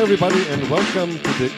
everybody, and welcome to the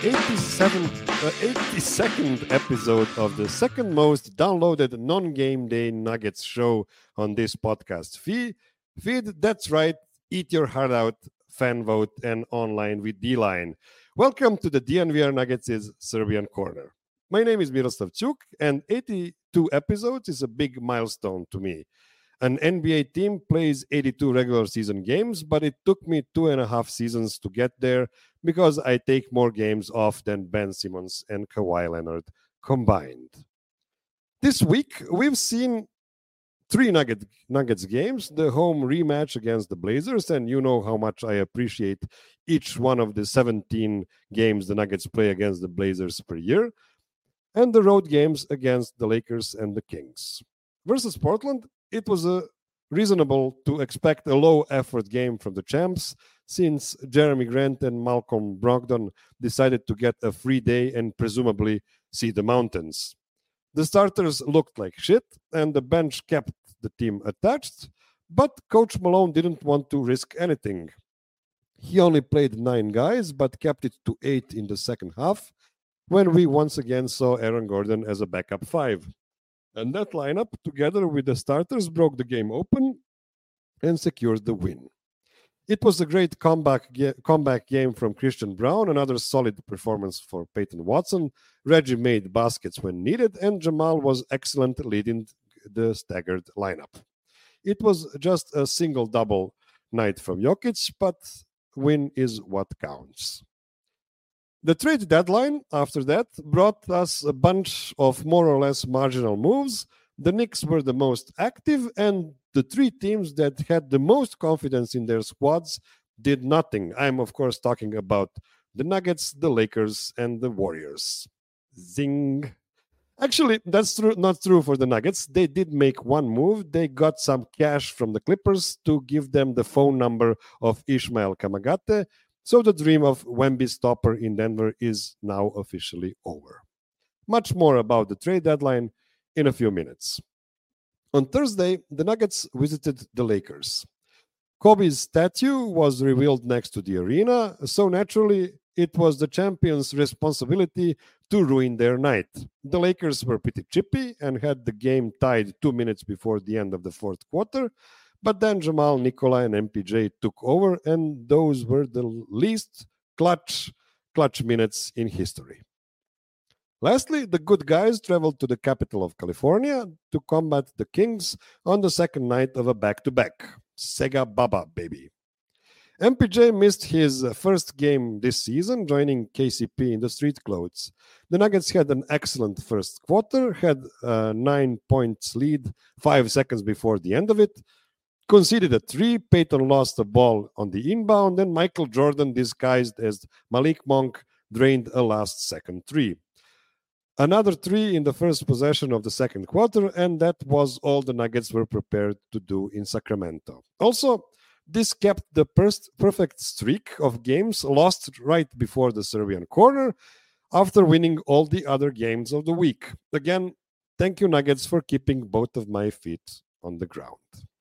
82nd episode of the second most downloaded non-game day Nuggets show on this podcast feed. That's right, eat your heart out, fan vote, and online with D-Line. Welcome to the DNVR Nuggets' Serbian Corner. My name is Miroslav Cuk, and 82 episodes is a big milestone to me. An NBA team plays 82 regular season games, but it took me 2.5 seasons to get there because I take more games off than Ben Simmons and Kawhi Leonard combined. This week, we've seen 3 Nuggets games, the home rematch against the Blazers, and you know how much I appreciate each one of the 17 games the Nuggets play against the Blazers per year, and the road games against the Lakers and the Kings. Versus Portland, it was reasonable to expect a low-effort game from the champs since Jeremy Grant and Malcolm Brogdon decided to get a free day and presumably see the mountains. The starters looked like shit, and the bench kept the team attached, but Coach Malone didn't want to risk anything. He only played 9 guys, but kept it to 8 in the second half, when we once again saw Aaron Gordon as a backup 5. And that lineup, together with the starters, broke the game open and secured the win. It was a great comeback game from Christian Braun, another solid performance for Peyton Watson. Reggie made baskets when needed, and Jamal was excellent leading the staggered lineup. It was just a single-double night from Jokic, but win is what counts. The trade deadline after that brought us a bunch of more or less marginal moves. The Knicks were the most active, and the 3 teams that had the most confidence in their squads did nothing. I'm, of course, talking about the Nuggets, the Lakers, and the Warriors. Zing. Actually, that's not true for the Nuggets. They did make one move. They got some cash from the Clippers to give them the phone number of Ishmael Kamagate. So the dream of Wemby stopper in Denver is now officially over. Much more about the trade deadline in a few minutes. On Thursday, the Nuggets visited the Lakers. Kobe's statue was revealed next to the arena, so naturally it was the champions' responsibility to ruin their night. The Lakers were pretty chippy and had the game tied 2 minutes before the end of the fourth quarter. But then Jamal, Nikola, and MPJ took over, and those were the least clutch minutes in history. Lastly, the good guys traveled to the capital of California to combat the Kings on the second night of a back-to-back. Sega Baba, baby. MPJ missed his first game this season, joining KCP in the street clothes. The Nuggets had an excellent first quarter, had a 9 points lead 5 seconds before the end of it, conceded a 3, Peyton lost the ball on the inbound, and Michael Jordan, disguised as Malik Monk, drained a last-second 3. Another 3 in the first possession of the second quarter, and that was all the Nuggets were prepared to do in Sacramento. Also, this kept the perfect streak of games lost right before the Serbian corner after winning all the other games of the week. Again, thank you, Nuggets, for keeping both of my feet on the ground.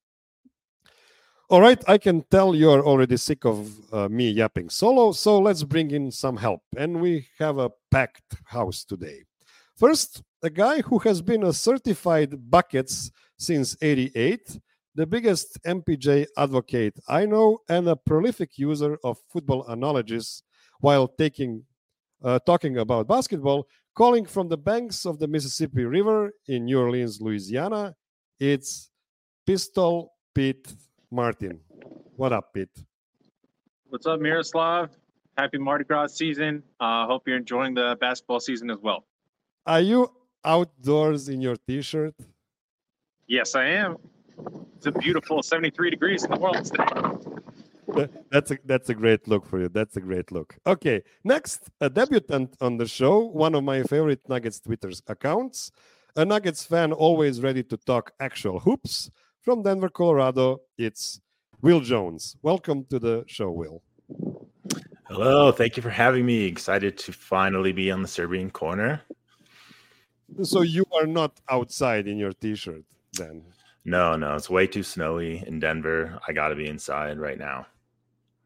All right, I can tell you're already sick of me yapping solo, so let's bring in some help. And we have a packed house today. First, a guy who has been a certified buckets since '88, the biggest MPJ advocate I know, and a prolific user of football analogies while talking about basketball, calling from the banks of the Mississippi River in New Orleans, Louisiana. It's Pistol Pete Martin. What up, Pete? What's up, Miroslav? Happy Mardi Gras season. Hope you're enjoying the basketball season as well. Are you outdoors in your t-shirt? Yes, I am. It's a beautiful 73 degrees in the world today. That's a great look for you. That's a great look. Okay, next, a debutant on the show, one of my favorite Nuggets Twitter accounts, a Nuggets fan always ready to talk actual hoops. From Denver, Colorado, it's Will Jones. Welcome to the show, Will. Hello, thank you for having me. Excited to finally be on the Serbian Corner. So you are not outside in your t-shirt then? No, it's way too snowy in Denver. I got to be inside right now.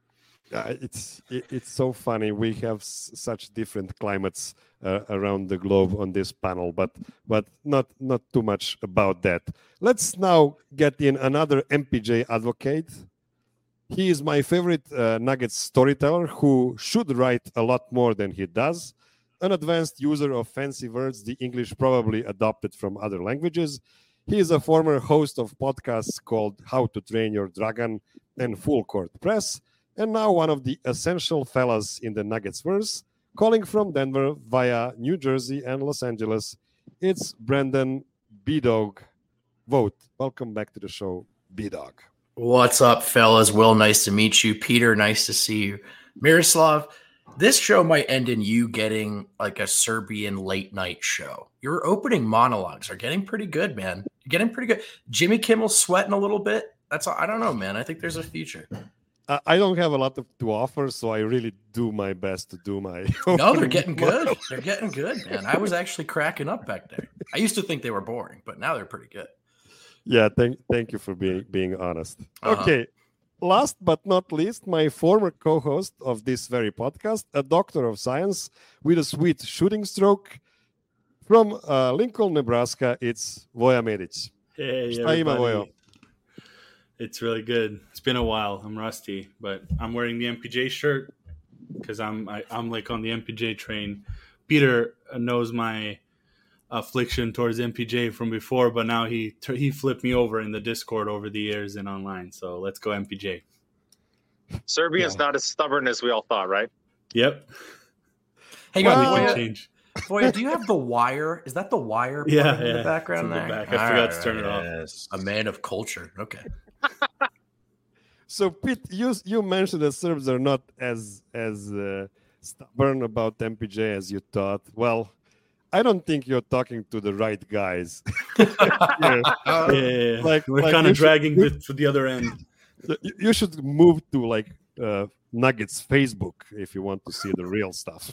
It's so funny. We have such different climates around the globe on this panel, but not too much about that. Let's now get in another MPJ advocate. He is my favorite Nuggets storyteller who should write a lot more than he does. An advanced user of fancy words, the English probably adopted from other languages. He is a former host of podcasts called How to Train Your Dragon and Full Court Press, and now one of the essential fellas in the Nuggets verse, calling from Denver via New Jersey and Los Angeles. It's Brendan B-Dog Vogt. Welcome back to the show, B-Dog. What's up, fellas? Will, nice to meet you. Peter, nice to see you. Miroslav, this show might end in you getting like a Serbian late night show. Your opening monologues are getting pretty good, man. You're getting pretty good. Jimmy Kimmel's sweating a little bit. That's all. I don't know, man. I think there's a future. I don't have a lot to offer, so I really do my best to do my. No, they're getting good. They're getting good, man. I was actually cracking up back there. I used to think they were boring, but now they're pretty good. Yeah, thank you for being honest. Okay, last but not least, my former co-host of this very podcast, a doctor of science with a sweet shooting stroke from Lincoln, Nebraska. It's Voja Medic. Hey, Šta ima, Vojo? It's really good. It's been a while. I'm rusty, but I'm wearing the MPJ shirt because I'm like on the MPJ train. Peter knows my affliction towards MPJ from before, but now he flipped me over in the Discord over the years and online. So let's go MPJ. Serbia's not as stubborn as we all thought, right? Yep. Hey, change. Voja, do you have the wire? Is that the wire in the background there? I forgot to turn it off. A man of culture. Okay. So, Pete, you mentioned that Serbs are not as stubborn about MPJ as you thought. Well, I don't think you're talking to the right guys. Yeah. Like we're kind of dragging to the other end. You should move to like Nuggets Facebook if you want to see the real stuff.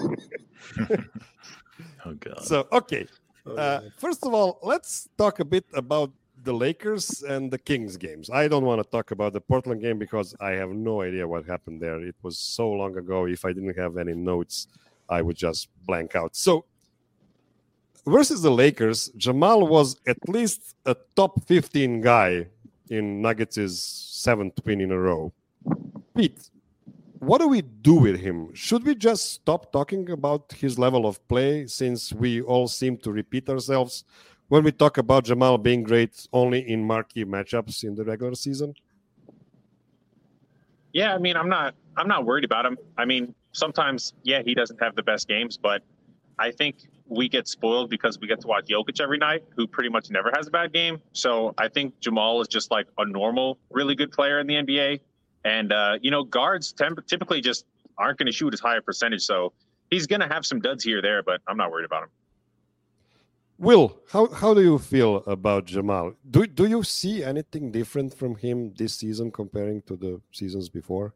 Oh God. So, okay. First of all, let's talk a bit about the Lakers and the Kings games. I don't want to talk about the Portland game because I have no idea what happened there. It was so long ago. If I didn't have any notes, I would just blank out. So, versus the Lakers, Jamal was at least a top 15 guy in Nuggets' 7th win in a row. Pete, what do we do with him? Should we just stop talking about his level of play since we all seem to repeat ourselves when we talk about Jamal being great only in marquee matchups in the regular season? Yeah, I mean, I'm not worried about him. I mean, sometimes, he doesn't have the best games, but I think we get spoiled because we get to watch Jokic every night, who pretty much never has a bad game. So I think Jamal is just like a normal, really good player in the NBA. And, guards typically just aren't going to shoot as high a percentage. So he's going to have some duds here or there, but I'm not worried about him. Will, how do you feel about Jamal? Do you see anything different from him this season comparing to the seasons before?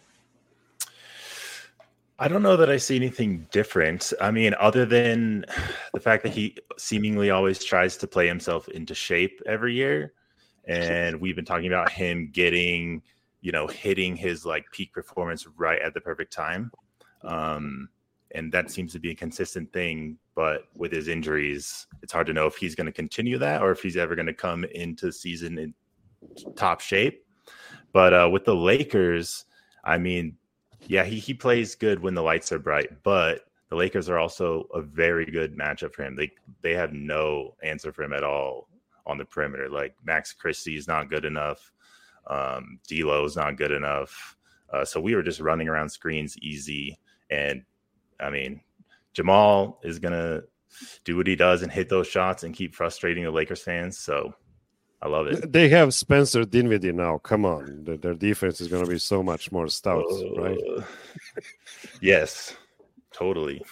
I don't know that I see anything different. I mean, other than the fact that he seemingly always tries to play himself into shape every year. And we've been talking about him getting, hitting his like peak performance right at the perfect time. And that seems to be a consistent thing. But with his injuries, it's hard to know if he's going to continue that or if he's ever going to come into the season in top shape. But with the Lakers, I mean, yeah, he plays good when the lights are bright, but the Lakers are also a very good matchup for him. They have no answer for him at all on the perimeter. Like Max Christie is not good enough. D'Lo is not good enough. So we were just running around screens easy. And I mean, Jamal is going to do what he does and hit those shots and keep frustrating the Lakers fans. So I love it. They have Spencer Dinwiddie now. Come on. Their defense is going to be so much more stout, right? Yes, totally.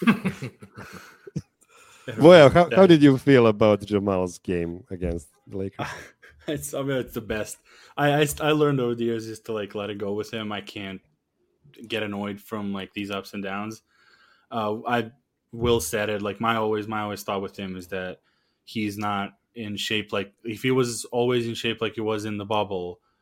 Well, how did you feel about Jamal's game against the Lakers? It's the best. I learned over the years just to like let it go with him. I can't get annoyed from like these ups and downs. Will said it, like my always thought with him is that he's not in shape. Like if he was always in shape like he was in the bubble,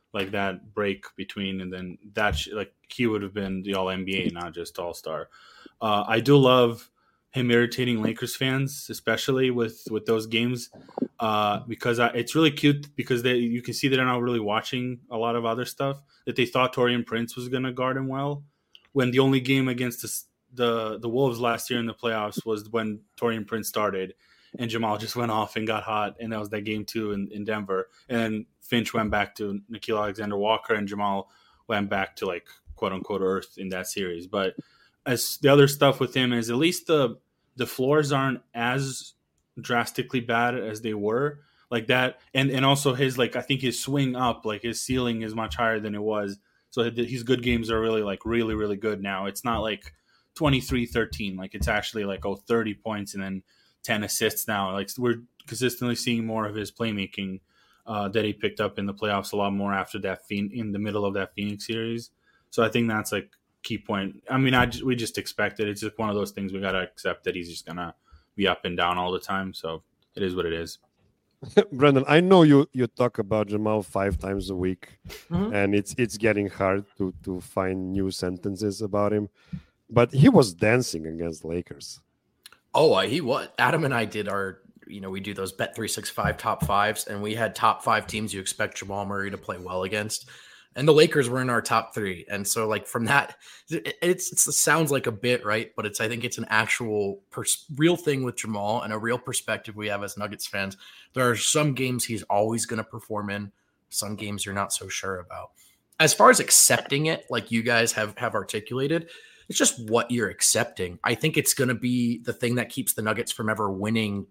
like that break between, and then like he would have been the All NBA, not just All Star. I do love him irritating Lakers fans, especially with those games, because it's really cute because you can see they're not really watching a lot of other stuff, that they thought Taurean Prince was going to guard him well, when the only game against the Wolves last year in the playoffs was when Taurean Prince started, and Jamal just went off and got hot, and that was that game 2 in Denver, and Finch went back to Nickeil Alexander-Walker, and Jamal went back to like quote unquote earth in that series. But as the other stuff with him is, at least the floors aren't as drastically bad as they were, like that, and also his, like, I think his swing up, like his ceiling is much higher than it was, so his good games are really like really really good now. It's not like 23-13, like it's actually like 30 points and then 10 assists now. Like we're consistently seeing more of his playmaking that he picked up in the playoffs a lot more after that in the middle of that Phoenix series. So I think that's like key point. I mean, we just expect it. It's just one of those things we got to accept, that he's just going to be up and down all the time. So it is what it is. Brendan, I know you talk about Jamal 5 times a week, and it's getting hard to find new sentences about him, but he was dancing against Lakers. Oh, he was. Adam and I did we do those Bet365 top 5s, and we had top 5 teams you expect Jamal Murray to play well against. And the Lakers were in our top 3. And so, like, from that, it sounds like a bit, right? But I think it's an actual real thing with Jamal, and a real perspective we have as Nuggets fans. There are some games he's always going to perform in. Some games you're not so sure about. As far as accepting it, like you guys have articulated, it's just what you're accepting. I think it's going to be the thing that keeps the Nuggets from ever winning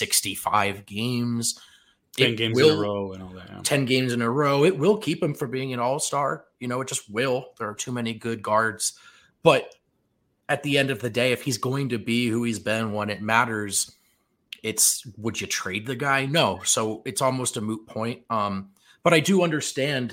65 games. 10 games in a row and all that. Yeah. 10 games in a row. It will keep him from being an all-star. It just will. There are too many good guards. But at the end of the day, if he's going to be who he's been when it matters, would you trade the guy? No. So it's almost a moot point. But I do understand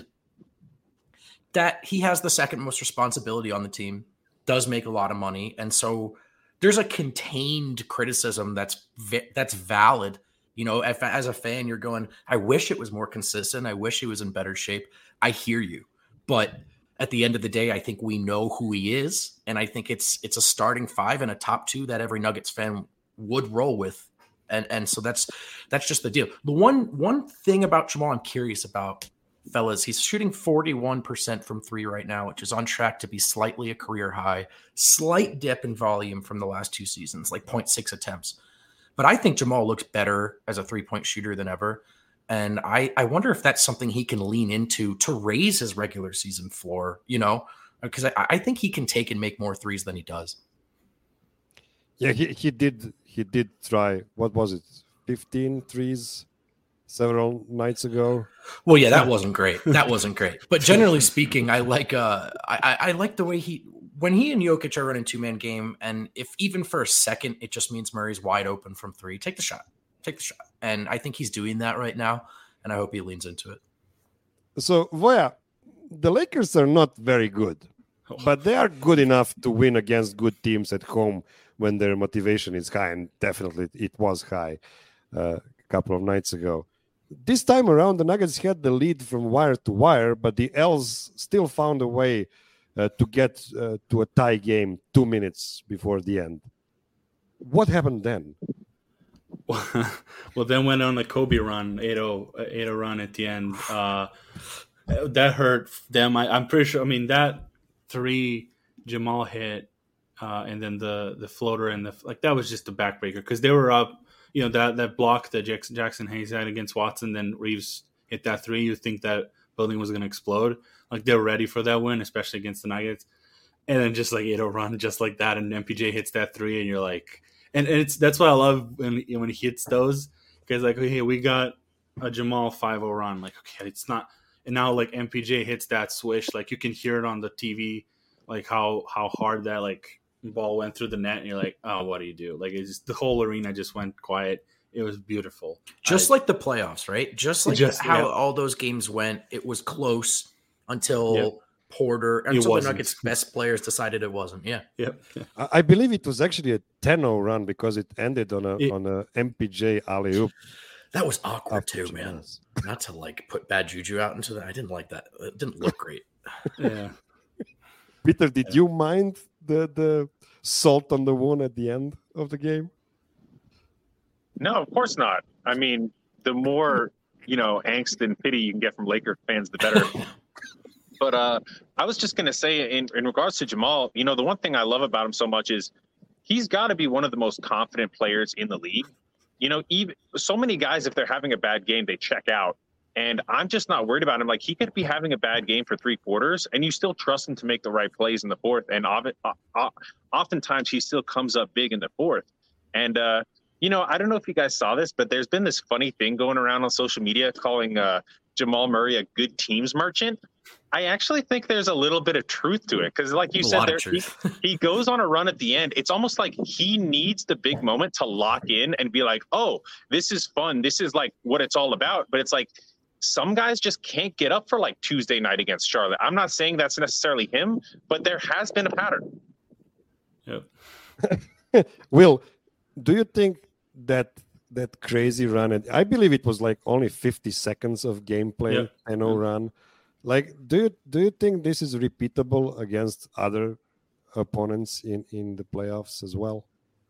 that he has the second most responsibility on the team, does make a lot of money. And so there's a contained criticism that's valid. If as a fan, you're going, I wish it was more consistent. I wish he was in better shape. I hear you. But at the end of the day, I think we know who he is. And I think it's a starting 5 and a top 2 that every Nuggets fan would roll with. And so that's just the deal. The one thing about Jamal I'm curious about, fellas, he's shooting 41% from 3 right now, which is on track to be slightly a career high. Slight dip in volume from the last 2 seasons, like 0.6 attempts. But I think Jamal looks better as a 3-point shooter than ever. And I wonder if that's something he can lean into to raise his regular season floor, because I think he can take and make more threes than he does. Yeah, he did try, what was it, 15 threes several nights ago. Well, yeah, that wasn't great. But generally speaking, I like I like the way when he and Jokic are running 2-man game, and if even for a second it just means Murray's wide open from 3, take the shot. And I think he's doing that right now, and I hope he leans into it. So, Voya, the Lakers are not very good, but they are good enough to win against good teams at home when their motivation is high, and definitely it was high a couple of nights ago. This time around, the Nuggets had the lead from wire to wire, but the Els still found a way to get to a tie game 2 minutes before the end. What happened then? Well, then went on the Kobe run, 8-0 run at the end. That hurt them. I'm pretty sure. I mean, that 3 Jamal hit, and then the floater and that was just a backbreaker because they were up. That block that Jackson Hayes had against Watson, then Reeves hit that 3. You think that building was going to explode. Like, they're ready for that win, especially against the Nuggets. And then just like 8-0 run just like that, and MPJ hits that 3, and you're like, and that's what I love when he hits those, because like, hey, we got a Jamal 5-0 run. Like, okay, it's not, and now like MPJ hits that swish, like you can hear it on the TV, like how hard that like ball went through the net, and you're like, oh, what do you do? Like, it's just, the whole arena just went quiet. It was beautiful. Just like the playoffs, right? Just how all those games went. It was close until Porter, until the Nuggets' best players decided it wasn't. Yeah. Yep. I believe it was actually a 10-0 run because it ended on a MPJ alley-oop. That was awkward after too, man. Jamal's. Not to like put bad juju out into that. I didn't like that. It didn't look great. Yeah. Peter, did you mind the salt on the wound at the end of the game? No, of course not. I mean, the more, angst and pity you can get from Laker fans, the better. But I was just going to say, in regards to Jamal, the one thing I love about him so much is he's got to be one of the most confident players in the league. Even so many guys, if they're having a bad game, they check out. And I'm just not worried about him. Like, he could be having a bad game for 3 quarters, and you still trust him to make the right plays in the fourth. And oftentimes he still comes up big in the fourth. And, I don't know if you guys saw this, but there's been this funny thing going around on social media calling Jamal Murray a good teams merchant. I actually think there's a little bit of truth to it because, like you said, he goes on a run at the end. It's almost like he needs the big moment to lock in and be like, oh, this is fun. This is like what it's all about. But it's like some guys just can't get up for like Tuesday night against Charlotte. I'm not saying that's necessarily him, but there has been a pattern. Yep. Will, do you think that crazy run, I believe it was like only 50 seconds of gameplay, 10-0 run. Like, do you think this is repeatable against other opponents in the playoffs as well?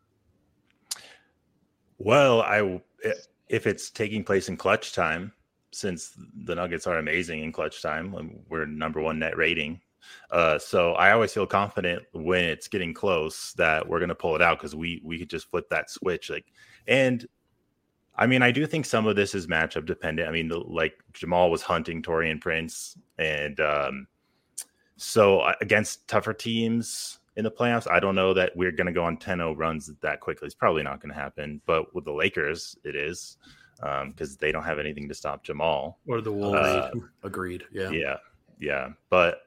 Well, if it's taking place in clutch time, since the Nuggets are amazing in clutch time, we're number 1 net rating. So I always feel confident when it's getting close that we're going to pull it out because we could just flip that switch. And I mean, I do think some of this is matchup dependent. I mean, like Jamal was hunting Taurean Prince, and so against tougher teams in the playoffs, I don't know that we're going to go on 10-0 runs that quickly. It's probably not going to happen. But with the Lakers, it is because they don't have anything to stop Jamal or the Wolves. Agreed. Yeah. But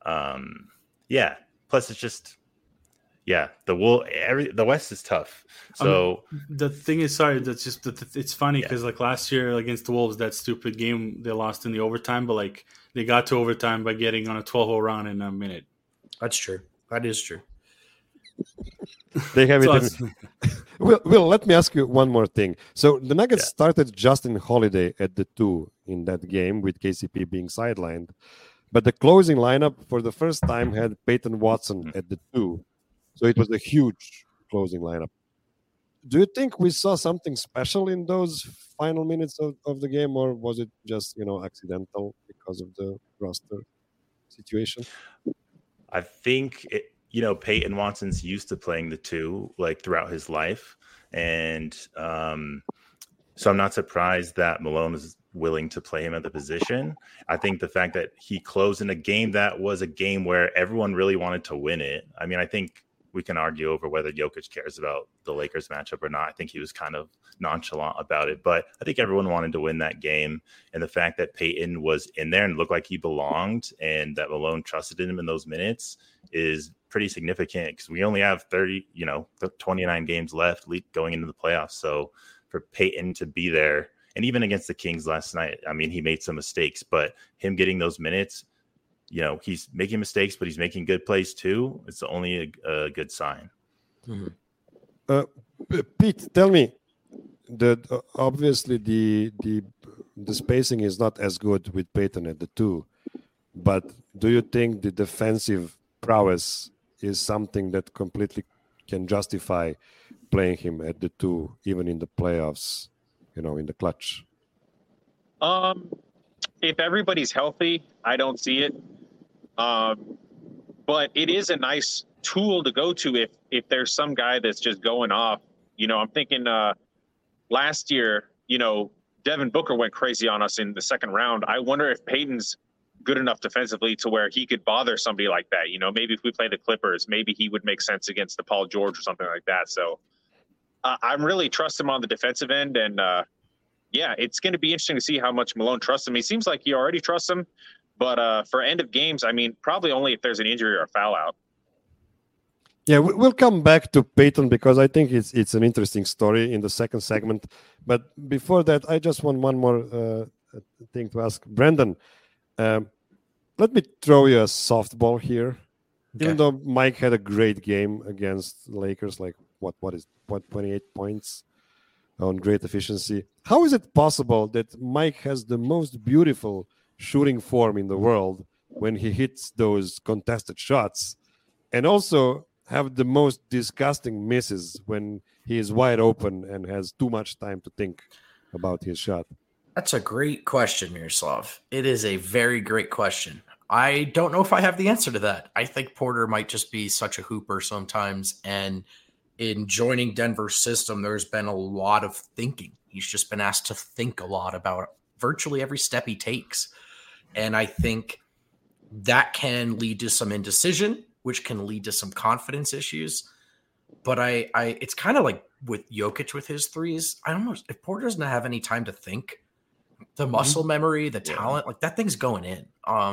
plus it's just. Yeah, the West is tough. So the thing is, that's just it's funny because like last year against the Wolves, that stupid game they lost in the overtime, but like they got to overtime by getting on a 12-0 run in a minute. That's true. That is true. They have it. Will, let me ask you one more thing. So the Nuggets started Justin Holiday at the 2 in that game with KCP being sidelined, but the closing lineup for the first time had Peyton Watson at the 2. So it was a huge closing lineup. Do you think we saw something special in those final minutes of the game, or was it just, accidental because of the roster situation? I think, Peyton Watson's used to playing the 2 like throughout his life. And so I'm not surprised that Malone is willing to play him at the position. I think the fact that he closed in a game that was a game where everyone really wanted to win it. I mean, I think we can argue over whether Jokic cares about the Lakers matchup or not. I think he was kind of nonchalant about it, but I think everyone wanted to win that game. And the fact that Peyton was in there and looked like he belonged and that Malone trusted him in those minutes is pretty significant because we only have 29 games left going into the playoffs. So for Peyton to be there, and even against the Kings last night, I mean, he made some mistakes, but him getting those minutes, he's making mistakes, but he's making good plays too. It's only a good sign. Mm-hmm. Pete, tell me, obviously the spacing is not as good with Peyton at the 2, but do you think the defensive prowess is something that completely can justify playing him at the 2, even in the playoffs, in the clutch? If everybody's healthy, I don't see it. But it is a nice tool to go to if there's some guy that's just going off. I'm thinking last year, Devin Booker went crazy on us in the second round. I wonder if Peyton's good enough defensively to where he could bother somebody like that. Maybe if we play the Clippers, maybe he would make sense against the Paul George or something like that. So I'm really trust him on the defensive end. And it's going to be interesting to see how much Malone trusts him. He seems like he already trusts him. But for end of games, I mean, probably only if there's an injury or a foul out. Yeah, we'll come back to Peyton because I think it's an interesting story in the second segment. But before that, I just want one more thing to ask. Brandon, let me throw you a softball here. Okay. Even though Mike had a great game against Lakers, like what 28 points on great efficiency. how is it possible that Mike has the most beautiful shooting form in the world when he hits those contested shots, and also have the most disgusting misses when he is wide open and has too much time to think about his shot? That's a great question, Miroslav. It is a very great question. I don't know if I have the answer to that. I think Porter might just be such a hooper sometimes. And in joining Denver's system, there's been a lot of thinking. He's just been asked to think a lot about virtually every step he takes. And I think that can lead to some indecision, which can lead to some confidence issues. But it's kind of like with Jokic with his threes. I don't know if Porter doesn't have any time to think. The muscle memory, the talent, like that thing's going in.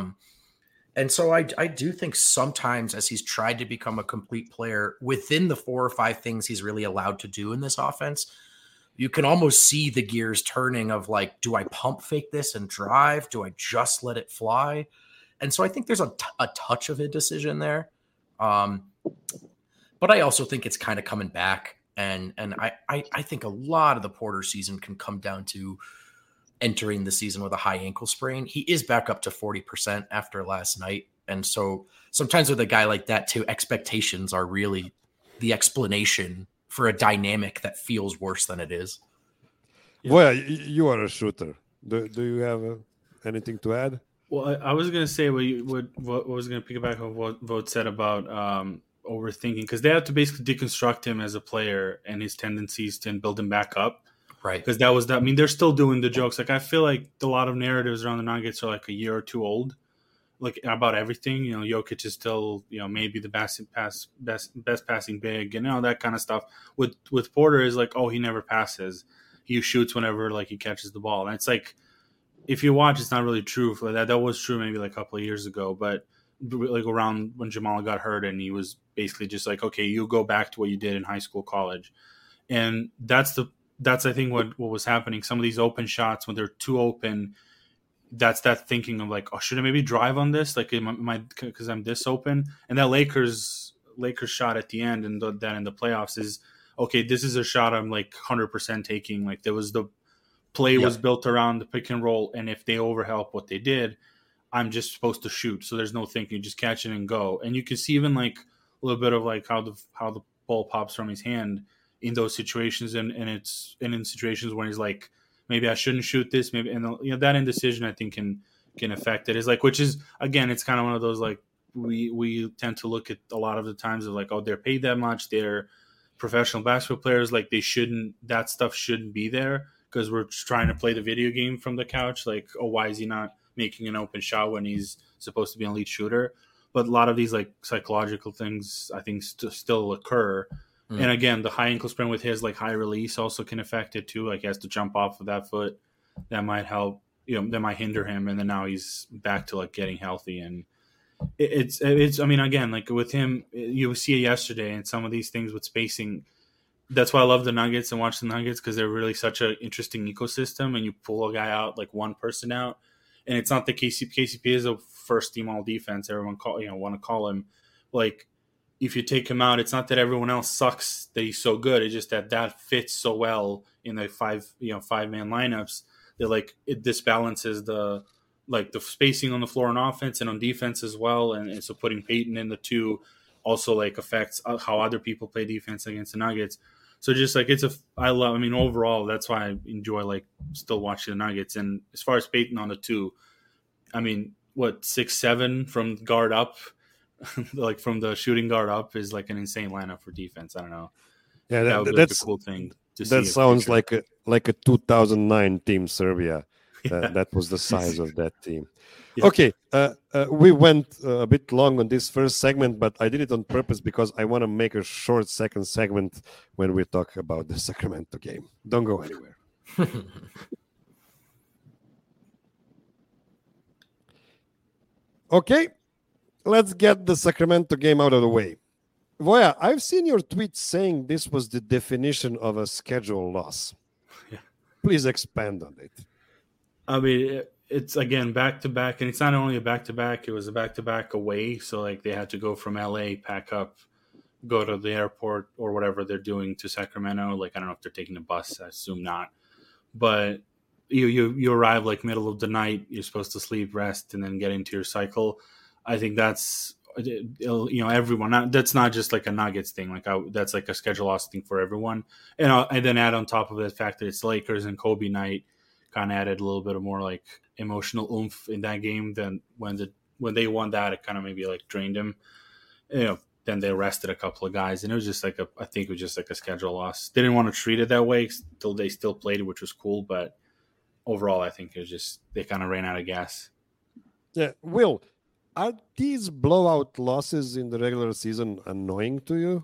And so I do think sometimes as he's tried to become a complete player within the 4 or 5 things he's really allowed to do in this offense, you can almost see the gears turning of like, do I pump fake this and drive? Do I just let it fly? And so I think there's a touch of a decision there. But I also think it's kind of coming back. And I think a lot of the Porter season can come down to entering the season with a high ankle sprain. He is back up to 40% after last night. And so sometimes with a guy like that too, expectations are really the explanation for a dynamic that feels worse than it is. Yeah. Well, you are a shooter. Do you have anything to add? Well, I was going to say what was going to piggyback on what Vogt said about overthinking, because they have to basically deconstruct him as a player and his tendencies and build him back up. Right. Because that was that. I mean, they're still doing the jokes. Like, I feel like a lot of narratives around the Nuggets are like a year or two old, like about everything. You know, Jokic is still, maybe the best passing big, and that kind of stuff. With Porter is like, oh, he never passes. He shoots whenever like he catches the ball. And it's like, if you watch, it's not really true. For that was true maybe like a couple of years ago, but like around when Jamal got hurt, and he was basically just like, okay, you go back to what you did in high school, college, and that's I think what was happening. Some of these open shots, when they're too open, that's that thinking of like, oh, should I maybe drive on this? Like, because I'm this open? And that Lakers shot at the end, and that in the playoffs is, okay, this is a shot I'm like 100% taking. Like, there was the play was built around the pick and roll, and if they overhelp what they did, I'm just supposed to shoot. So there's no thinking, just catch it and go. And you can see even like a little bit of like how the ball pops from his hand in those situations, and in situations when he's like, maybe I shouldn't shoot this, maybe, and that indecision I think can affect it. Is like, which is again, it's kind of one of those like we tend to look at a lot of the times of like, oh, they're paid that much, they're professional basketball players, like that stuff shouldn't be there because we're just trying to play the video game from the couch. Like, oh, why is he not making an open shot when he's supposed to be an elite shooter? But a lot of these like psychological things I think still occur. And again, the high ankle sprain with his like high release also can affect it too. Like, he has to jump off of that foot. That might help, that might hinder him. And then now he's back to like getting healthy. And it's, I mean, again, like with him, you see it yesterday, and some of these things with spacing. That's why I love the Nuggets and watch the Nuggets, because they're really such an interesting ecosystem. And you pull a guy out, like one person out, and it's not the KCP is a first team all defense. Everyone want to call him. Like, if you take him out, it's not that everyone else sucks that he's so good. It's just that fits so well in the 5-man lineups that like it disbalances the spacing on the floor on offense and on defense as well. And so putting Peyton in the 2 also like affects how other people play defense against the Nuggets. So just like overall, that's why I enjoy like still watching the Nuggets. And as far as Peyton on the 2, I mean, 6'7" from guard up, like from the shooting guard up is like an insane lineup for defense. I don't know. Yeah, that would be like a cool thing to see. That sounds like a 2009 Team Serbia. That was the size of that team. Yeah. Okay, we went a bit long on this first segment, but I did it on purpose because I want to make a short second segment when we talk about the Sacramento game. Don't go anywhere. Okay, let's get the Sacramento game out of the way. Voya, I've seen your tweet saying this was the definition of a schedule loss. Yeah. Please expand on it. I mean, it's again back-to-back, and it's not only a back-to-back, it was a back-to-back away. So like they had to go from LA, pack up, go to the airport or whatever they're doing to Sacramento. Like, I don't know if they're taking a bus, I assume not. but you arrive like middle of the night. You're supposed to sleep, rest, and then get into your cycle. I think that's everyone. That's not just like a Nuggets thing. That's like a schedule loss thing for everyone. And then add on top of the fact that it's Lakers and Kobe night, kind of added a little bit of more like emotional oomph in that game than when they won that. It kind of maybe like drained him. Then they rested a couple of guys, and it was just like I think it was just like a schedule loss. They didn't want to treat it that way. They still played it, which was cool, but overall, I think it was just they kind of ran out of gas. Yeah, Will, are these blowout losses in the regular season annoying to you?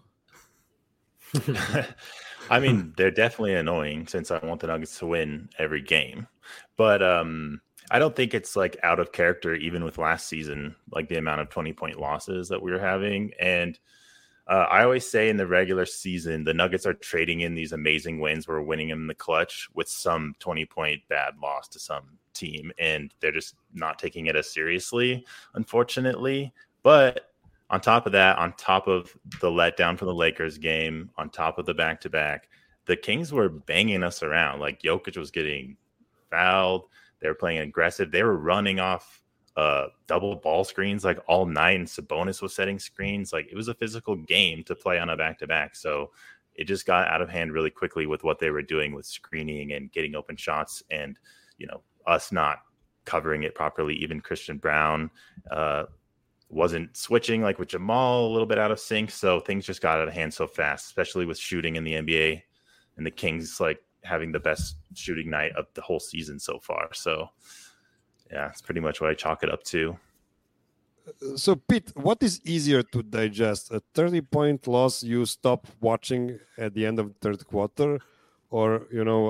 I mean, they're definitely annoying since I want the Nuggets to win every game. But I don't think it's like out of character, even with last season, like the amount of 20-point losses that we were having. And I always say in the regular season, the Nuggets are trading in these amazing wins. We're winning them in the clutch with some 20-point bad loss to some team. And they're just not taking it as seriously, unfortunately. But on top of that, on top of the letdown from the Lakers game, on top of the back-to-back, the Kings were banging us around. Like Jokic was getting fouled. They were playing aggressive. They were running off double ball screens like all night, and Sabonis was setting screens. Like it was a physical game to play on a back-to-back. So it just got out of hand really quickly with what they were doing with screening and getting open shots, and us not covering it properly. Even Christian Brown wasn't switching like with Jamal, a little bit out of sync. So things just got out of hand so fast, especially with shooting in the NBA, and the Kings like having the best shooting night of the whole season so far. So yeah, it's pretty much what I chalk it up to. So Pete, what is easier to digest, a 30-point loss you stop watching at the end of the third quarter, or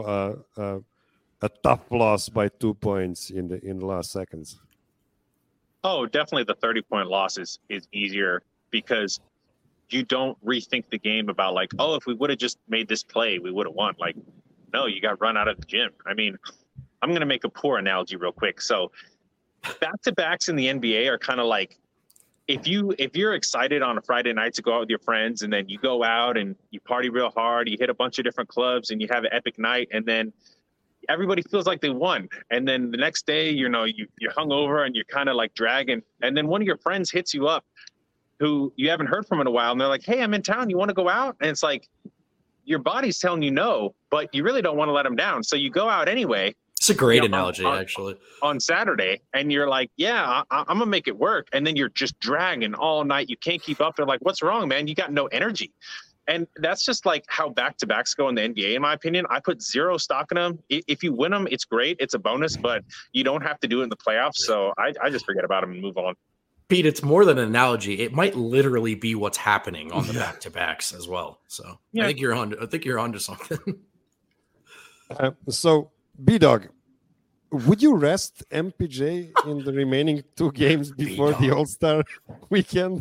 a tough loss by 2 points in the last seconds? Oh, definitely the 30-point loss is easier because you don't rethink the game about like, oh, if we would have just made this play, we would have won. Like, no, you got run out of the gym. I mean, I'm going to make a poor analogy real quick. So back-to-backs in the NBA are kind of like, if you're excited on a Friday night to go out with your friends, and then you go out and you party real hard, you hit a bunch of different clubs and you have an epic night, and then everybody feels like they won. And then the next day, you're hungover and you're kind of like dragging. And then one of your friends hits you up who you haven't heard from in a while. And they're like, hey, I'm in town. You want to go out? And it's like, your body's telling you no, but you really don't want to let them down. So you go out anyway. It's a great analogy, actually. On Saturday, and you're like, yeah, I'm going to make it work. And then you're just dragging all night. You can't keep up. They're like, what's wrong, man? You got no energy. And that's just like how back-to-backs go in the NBA, in my opinion. I put zero stock in them. If you win them, it's great. It's a bonus, but you don't have to do it in the playoffs. So I just forget about them and move on. Pete, it's more than an analogy. It might literally be what's happening on the back-to-backs as well. So yeah. I think you're onto something. So, B-Dog, would you rest MPJ in the remaining 2 games before the All-Star weekend?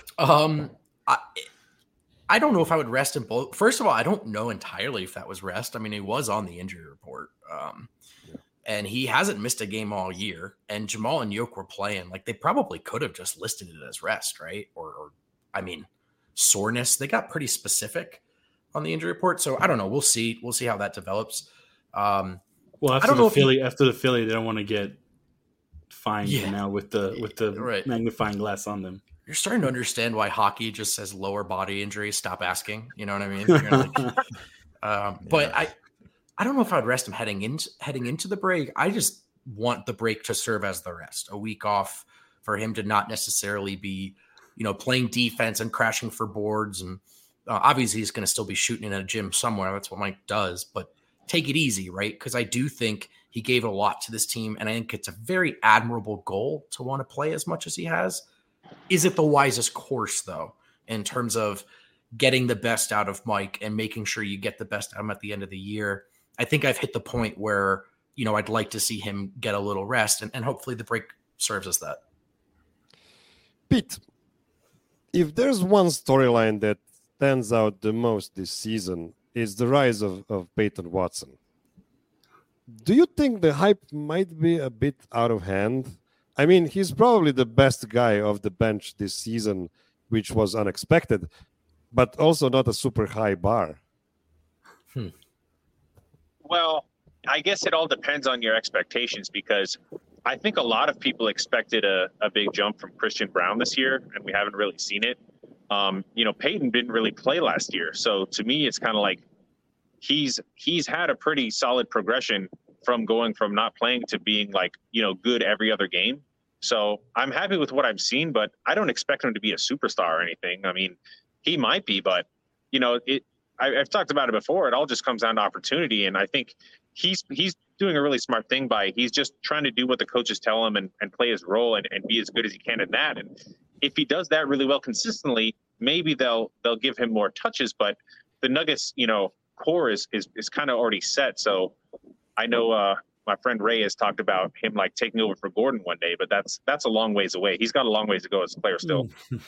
I don't know if I would rest in both. First of all, I don't know entirely if that was rest. I mean, he was on the injury report. And he hasn't missed a game all year. And Jamal and Yoke were playing. Like, they probably could have just listed it as rest, right? Or soreness. They got pretty specific on the injury report. So I don't know. We'll see. We'll see how that develops. Well, after the Philly, they don't want to get fined now with the right. magnifying glass on them. You're starting to understand why hockey just says lower body injury. Stop asking. You know what I mean? Like, but I don't know if I'd rest him heading into the break. I just want the break to serve as the rest, a week off for him to not necessarily be, playing defense and crashing for boards. And obviously he's going to still be shooting in a gym somewhere. That's what Mike does, but take it easy, right? Because I do think he gave a lot to this team, and I think it's a very admirable goal to want to play as much as he has. Is it the wisest course, though, in terms of getting the best out of Mike and making sure you get the best out of him at the end of the year? I think I've hit the point where, I'd like to see him get a little rest, and hopefully the break serves as that. Pete, if there's one storyline that stands out the most this season, it's the rise of Peyton Watson. Do you think the hype might be a bit out of hand? I mean, he's probably the best guy off the bench this season, which was unexpected, but also not a super high bar. Well, I guess it all depends on your expectations, because I think a lot of people expected a big jump from Christian Braun this year, and we haven't really seen it. Peyton didn't really play last year. So to me, it's kind of like he's had a pretty solid progression from going from not playing to being like, good every other game. So I'm happy with what I've seen, but I don't expect him to be a superstar or anything. I mean, he might be, but I've talked about it before. It all just comes down to opportunity. And I think he's doing a really smart thing by he's just trying to do what the coaches tell him and play his role and be as good as he can in that. And if he does that really well consistently, maybe they'll give him more touches. But the Nuggets, core is kind of already set. So I know my friend Ray has talked about him like taking over for Gordon one day, but that's a long ways away. He's got a long ways to go as a player still.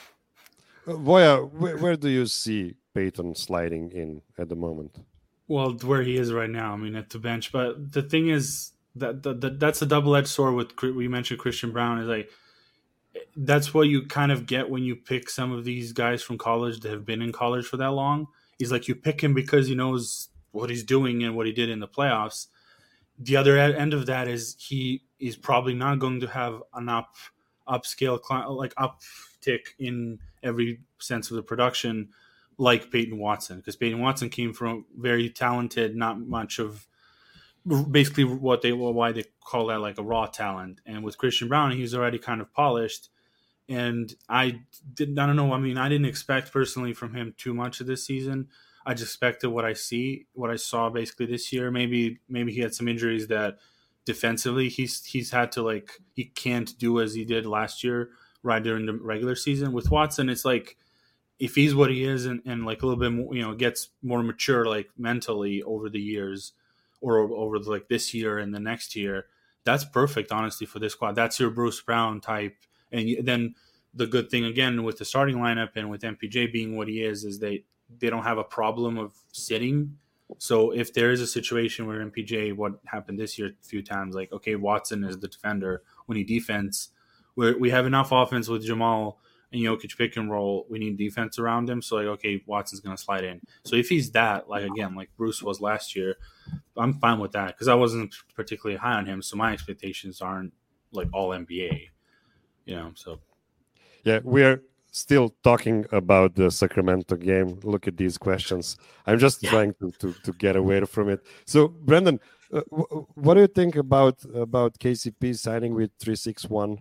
Voya, where do you see Peyton sliding in at the moment? Well, where he is right now, I mean, at the bench. But the thing is that's a double-edged sword with, we mentioned Christian Braun, is like, that's what you kind of get when you pick some of these guys from college that have been in college for that long. He's like, you pick him because he knows what he's doing and what he did in the playoffs. The other end of that is he is probably not going to have an upscale, like uptick in every sense of the production like Peyton Watson, because Peyton Watson came from very talented, not much of basically why they call that like a raw talent. And with Christian Braun, he's already kind of polished. And I don't know. I mean, I didn't expect personally from him too much of this season. I just expected what I saw basically this year. Maybe he had some injuries that defensively he's had to he can't do as he did last year right during the regular season. With Watson, it's like, if he's what he is and like a little bit more, gets more mature like mentally over the years or over like this year and the next year, that's perfect, honestly, for this squad. That's your Bruce Brown type. And then the good thing, again, with the starting lineup and with MPJ being what he is they don't have a problem of sitting. So if there is a situation where MPJ, what happened this year a few times, like, okay, Watson is the defender when he defense, we have enough offense with Jamal and Jokic pick and roll, we need defense around him. So, like, okay, Watson's going to slide in. So if he's that, like, again, like Bruce was last year, I'm fine with that because I wasn't particularly high on him. So my expectations aren't like all NBA, so. Yeah, we are still talking about the Sacramento game. Look at these questions. I'm just trying to get away from it. So, Brendan, what do you think about KCP signing with 361?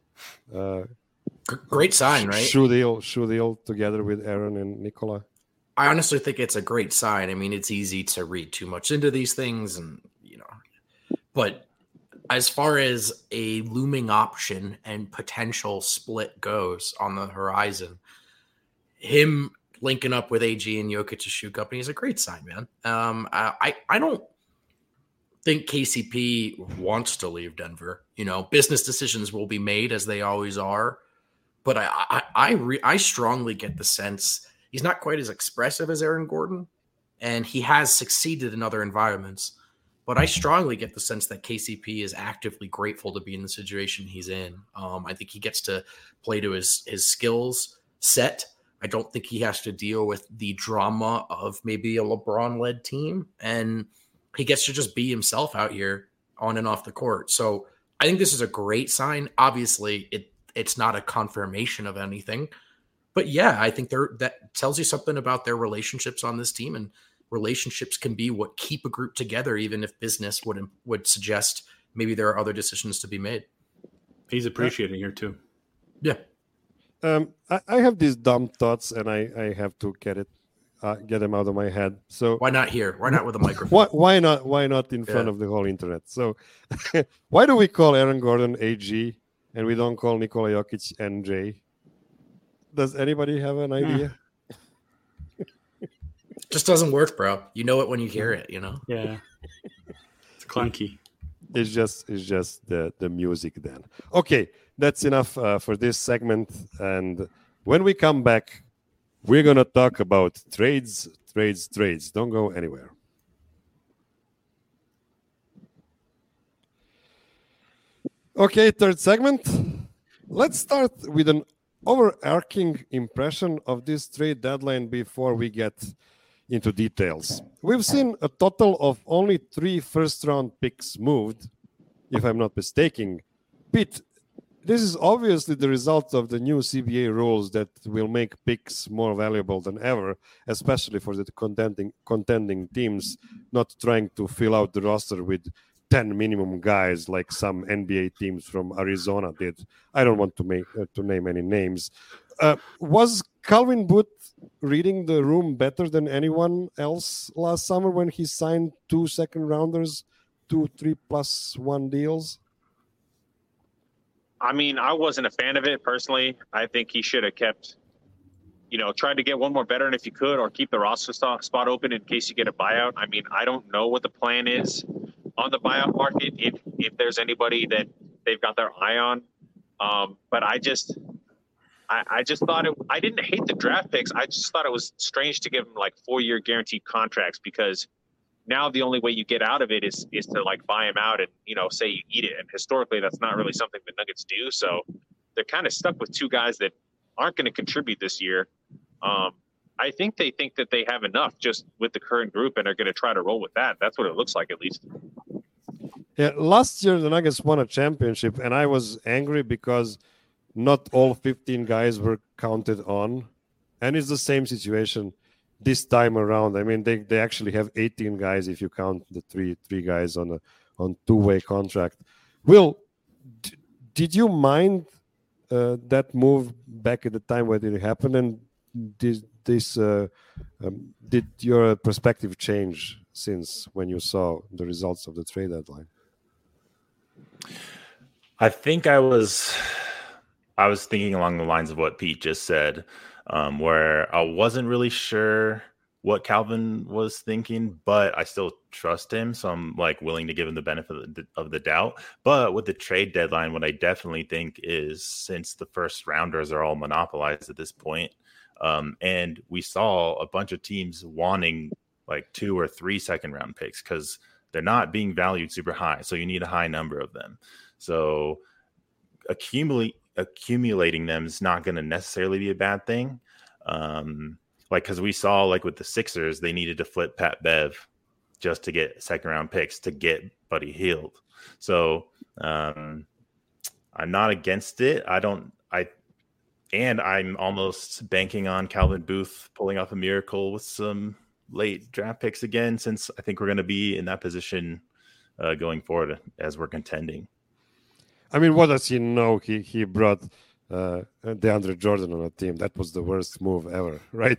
Great sign, right? Shoe deal together with Aaron and Nikola. I honestly think it's a great sign. I mean, it's easy to read too much into these things, and but as far as a looming option and potential split goes on the horizon, him linking up with AG and Jokic's shoe company is a great sign, man. I don't think KCP wants to leave Denver. Business decisions will be made as they always are. But I strongly get the sense he's not quite as expressive as Aaron Gordon, and he has succeeded in other environments. But I strongly get the sense that KCP is actively grateful to be in the situation he's in. I think he gets to play to his skills set. I don't think he has to deal with the drama of maybe a LeBron-led team, and he gets to just be himself out here on and off the court. So I think this is a great sign. Obviously, it's not a confirmation of anything, but yeah, I think that tells you something about their relationships on this team, and relationships can be what keep a group together, even if business would suggest maybe there are other decisions to be made. He's appreciated here too. Yeah. I have these dumb thoughts, and I have to get them out of my head. So why not here? Why not with a microphone? Why not in front of the whole internet? So why do we call Aaron Gordon AG and we don't call Nikola Jokic NJ? Does anybody have an idea? Just doesn't work, bro. You know it when you hear it, Yeah. It's clunky. It's just the music then. Okay, that's enough for this segment. And when we come back, we're going to talk about trades. Don't go anywhere. Okay, third segment. Let's start with an overarching impression of this trade deadline before we get into details. We've seen a total of only 3 first-round picks moved, if I'm not mistaken. Pete, this is obviously the result of the new CBA rules that will make picks more valuable than ever, especially for the contending teams, not trying to fill out the roster with 10 minimum guys like some NBA teams from Arizona did. I don't want to name any names. Was Calvin Booth reading the room better than anyone else last summer when he signed 2 second-rounders, 2 3+1 deals? I mean, I wasn't a fan of it personally. I think he should have kept, tried to get one more veteran if you could, or keep the roster spot open in case you get a buyout. I mean, I don't know what the plan is on the buyout market, if there's anybody that they've got their eye on. But I just thought I didn't hate the draft picks. I just thought it was strange to give them like 4-year guaranteed contracts, because now the only way you get out of it is to like buy him out and, say you eat it. And historically, that's not really something the Nuggets do. So they're kind of stuck with 2 guys that aren't going to contribute this year. I think they think that they have enough just with the current group and are going to try to roll with that. That's what it looks like, at least. Yeah, last year the Nuggets won a championship, and I was angry because not all 15 guys were counted on. And it's the same situation this time around. I mean, they actually have 18 guys if you count the three guys on 2-way contract. Will, did you mind that move back at the time when it happened? And did your perspective change since when you saw the results of the trade deadline? I think I was thinking along the lines of what Pete just said, where I wasn't really sure what Calvin was thinking, but I still trust him. So I'm like willing to give him the benefit of the doubt. But with the trade deadline, what I definitely think is, since the first rounders are all monopolized at this point, and we saw a bunch of teams wanting like 2 or 3 second round picks because they're not being valued super high. So you need a high number of them. So accumulating them is not going to necessarily be a bad thing. Because we saw, like with the Sixers, they needed to flip Pat Bev just to get second round picks to get Buddy Hield. So I'm not against it. I'm almost banking on Calvin Booth pulling off a miracle with some late draft picks again, since I think we're going to be in that position going forward as we're contending. I mean, what does he know? He brought DeAndre Jordan on a team. That was the worst move ever, right?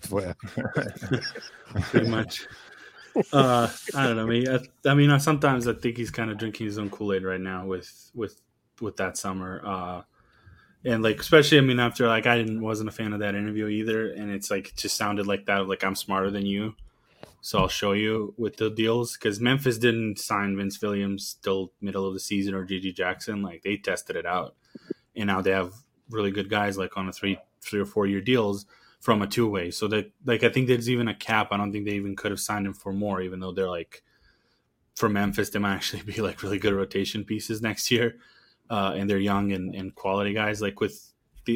Pretty much. I don't know. I mean, sometimes I think he's kind of drinking his own Kool-Aid right now with that summer. And like, especially, I mean, after like wasn't a fan of that interview either, and it's like it just sounded like that, like I'm smarter than you, so I'll show you with the deals. Because Memphis didn't sign Vince Williams till middle of the season, or G.G. Jackson. Like, they tested it out, and now they have really good guys like on a 3 or 4 year deals from a 2-way. So that, like, I think there's even a cap. I don't think they even could have signed him for more, even though they're like, for Memphis, they might actually be like really good rotation pieces next year. And they're young and quality guys. Like with